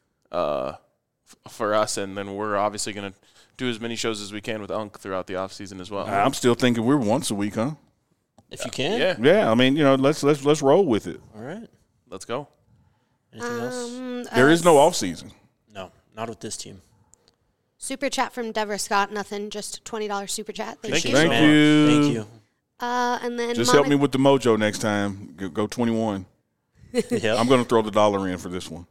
Speaker 2: For us, and then we're obviously going to do as many shows as we can with Unk throughout the off season as well.
Speaker 3: I'm still thinking we're once a week, huh?
Speaker 1: If you can.
Speaker 2: Yeah.
Speaker 3: Yeah, I mean, let's roll with it.
Speaker 1: All right.
Speaker 2: Let's go.
Speaker 1: Anything else?
Speaker 3: There is no offseason.
Speaker 1: No, not with this team.
Speaker 6: Super chat from Deborah Scott. Nothing, just $20 super chat. Thank you.
Speaker 3: Thank
Speaker 1: so
Speaker 3: you.
Speaker 1: much. Thank you.
Speaker 6: And then
Speaker 3: Just help me with the mojo next time. Go 21.
Speaker 1: Yep.
Speaker 3: I'm going to throw the dollar in for this one.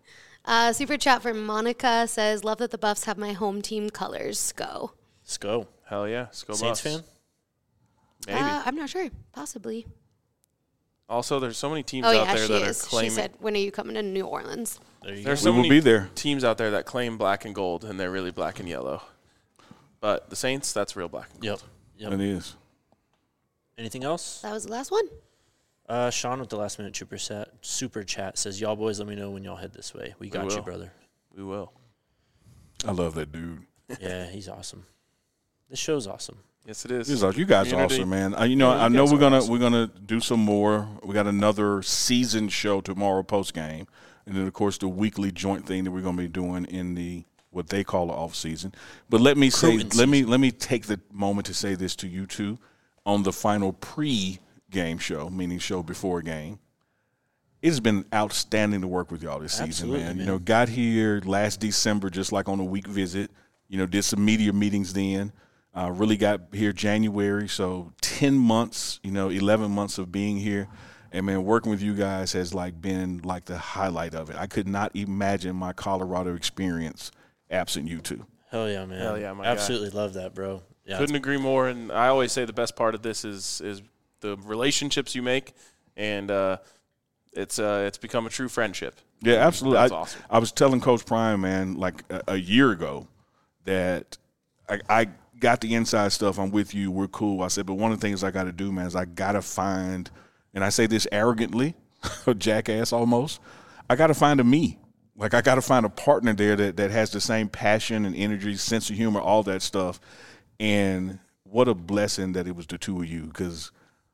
Speaker 6: Super chat from Monica says, love that the Buffs have my home team colors. Go.
Speaker 1: Let's go.
Speaker 2: Hell yeah. Let's go
Speaker 1: Saints
Speaker 2: Buffs.
Speaker 1: fan?
Speaker 2: Maybe.
Speaker 6: I'm not sure. Possibly.
Speaker 2: Also, there's so many teams
Speaker 6: Oh,
Speaker 2: out
Speaker 6: yeah,
Speaker 2: there
Speaker 6: she
Speaker 2: that
Speaker 6: is.
Speaker 2: are claiming.
Speaker 6: She said, when are you coming to New Orleans?
Speaker 1: There you
Speaker 2: There's
Speaker 1: go.
Speaker 2: so
Speaker 3: We will
Speaker 2: many
Speaker 3: be there.
Speaker 2: teams out there that claim black and gold, and they're really black and yellow. But the Saints, that's real black and gold.
Speaker 1: Yep.
Speaker 3: It is.
Speaker 1: Anything else?
Speaker 6: That was the last one.
Speaker 1: Sean with the last minute super chat says, y'all boys, let me know when y'all head this way. We got you,
Speaker 2: will.
Speaker 1: brother.
Speaker 2: We will.
Speaker 3: I love that dude.
Speaker 1: Yeah, he's awesome. This show's awesome.
Speaker 2: Yes, it is.
Speaker 3: You guys are
Speaker 2: Community.
Speaker 3: awesome, man. I
Speaker 2: Yeah,
Speaker 3: know
Speaker 2: you guys
Speaker 3: we're
Speaker 2: are
Speaker 3: gonna do some more. We got another season show tomorrow post game, and then of course the weekly joint thing that we're gonna be doing in the what they call the off season. But let me say, let me take the moment to say this to you two on the final pre-game show, meaning show before game. It has been outstanding to work with y'all this season, man. You know, got here last December just like on a week visit. You know, did some media meetings then. Really got here January, so 10 months, 11 months of being here. And, man, working with you guys has, been, the highlight of it. I could not imagine my Colorado experience absent you two.
Speaker 1: Hell yeah, man.
Speaker 2: Hell yeah, my guy.
Speaker 1: Absolutely love that, bro. Yeah,
Speaker 2: Couldn't agree more. And I always say the best part of this is the relationships you make, and it's become a true friendship.
Speaker 3: Yeah, absolutely.
Speaker 2: That's awesome.
Speaker 3: I was telling Coach Prime, man, a year ago that I got the inside stuff. I'm with you. We're cool. I said, but one of the things I got to do, man, is I got to find, and I say this arrogantly, a jackass almost, I got to find a me. I got to find a partner there that has the same passion and energy, sense of humor, all that stuff. And what a blessing that it was the two of you, because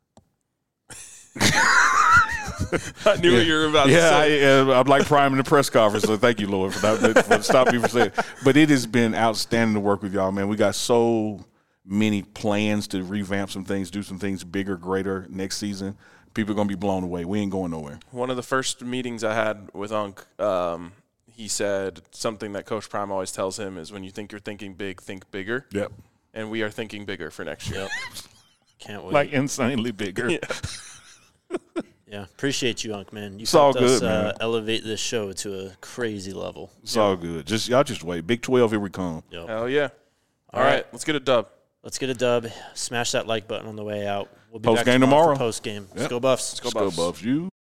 Speaker 2: I knew what you were about to say.
Speaker 3: I'm like Prime in the press conference, so thank you, Lord, for stopping me from saying it. But it has been outstanding to work with y'all, man. We got so many plans to revamp some things, do some things bigger, greater next season. People are going to be blown away. We ain't going nowhere.
Speaker 2: One of the first meetings I had with Unc, he said something that Coach Prime always tells him is when you think you're thinking big, think bigger.
Speaker 3: Yep.
Speaker 2: And we are thinking bigger for next year.
Speaker 1: Yep. Can't wait.
Speaker 3: Insanely bigger.
Speaker 1: Yeah, appreciate you, Unc, man. You
Speaker 3: It's all
Speaker 1: helped us
Speaker 3: good, man.
Speaker 1: elevate this show to a crazy level.
Speaker 3: It's all good. Y'all just wait. Big 12, here we come.
Speaker 1: Yep.
Speaker 2: Hell yeah. All
Speaker 1: All
Speaker 2: right,
Speaker 1: right.
Speaker 2: let's get a dub.
Speaker 1: Let's get a dub. Smash that like button on the way out. We'll be
Speaker 3: Post
Speaker 1: back
Speaker 3: game
Speaker 1: tomorrow.
Speaker 3: tomorrow.
Speaker 1: Post game. Let's
Speaker 3: Yep.
Speaker 1: go Buffs.
Speaker 2: Let's go Buffs.
Speaker 3: You.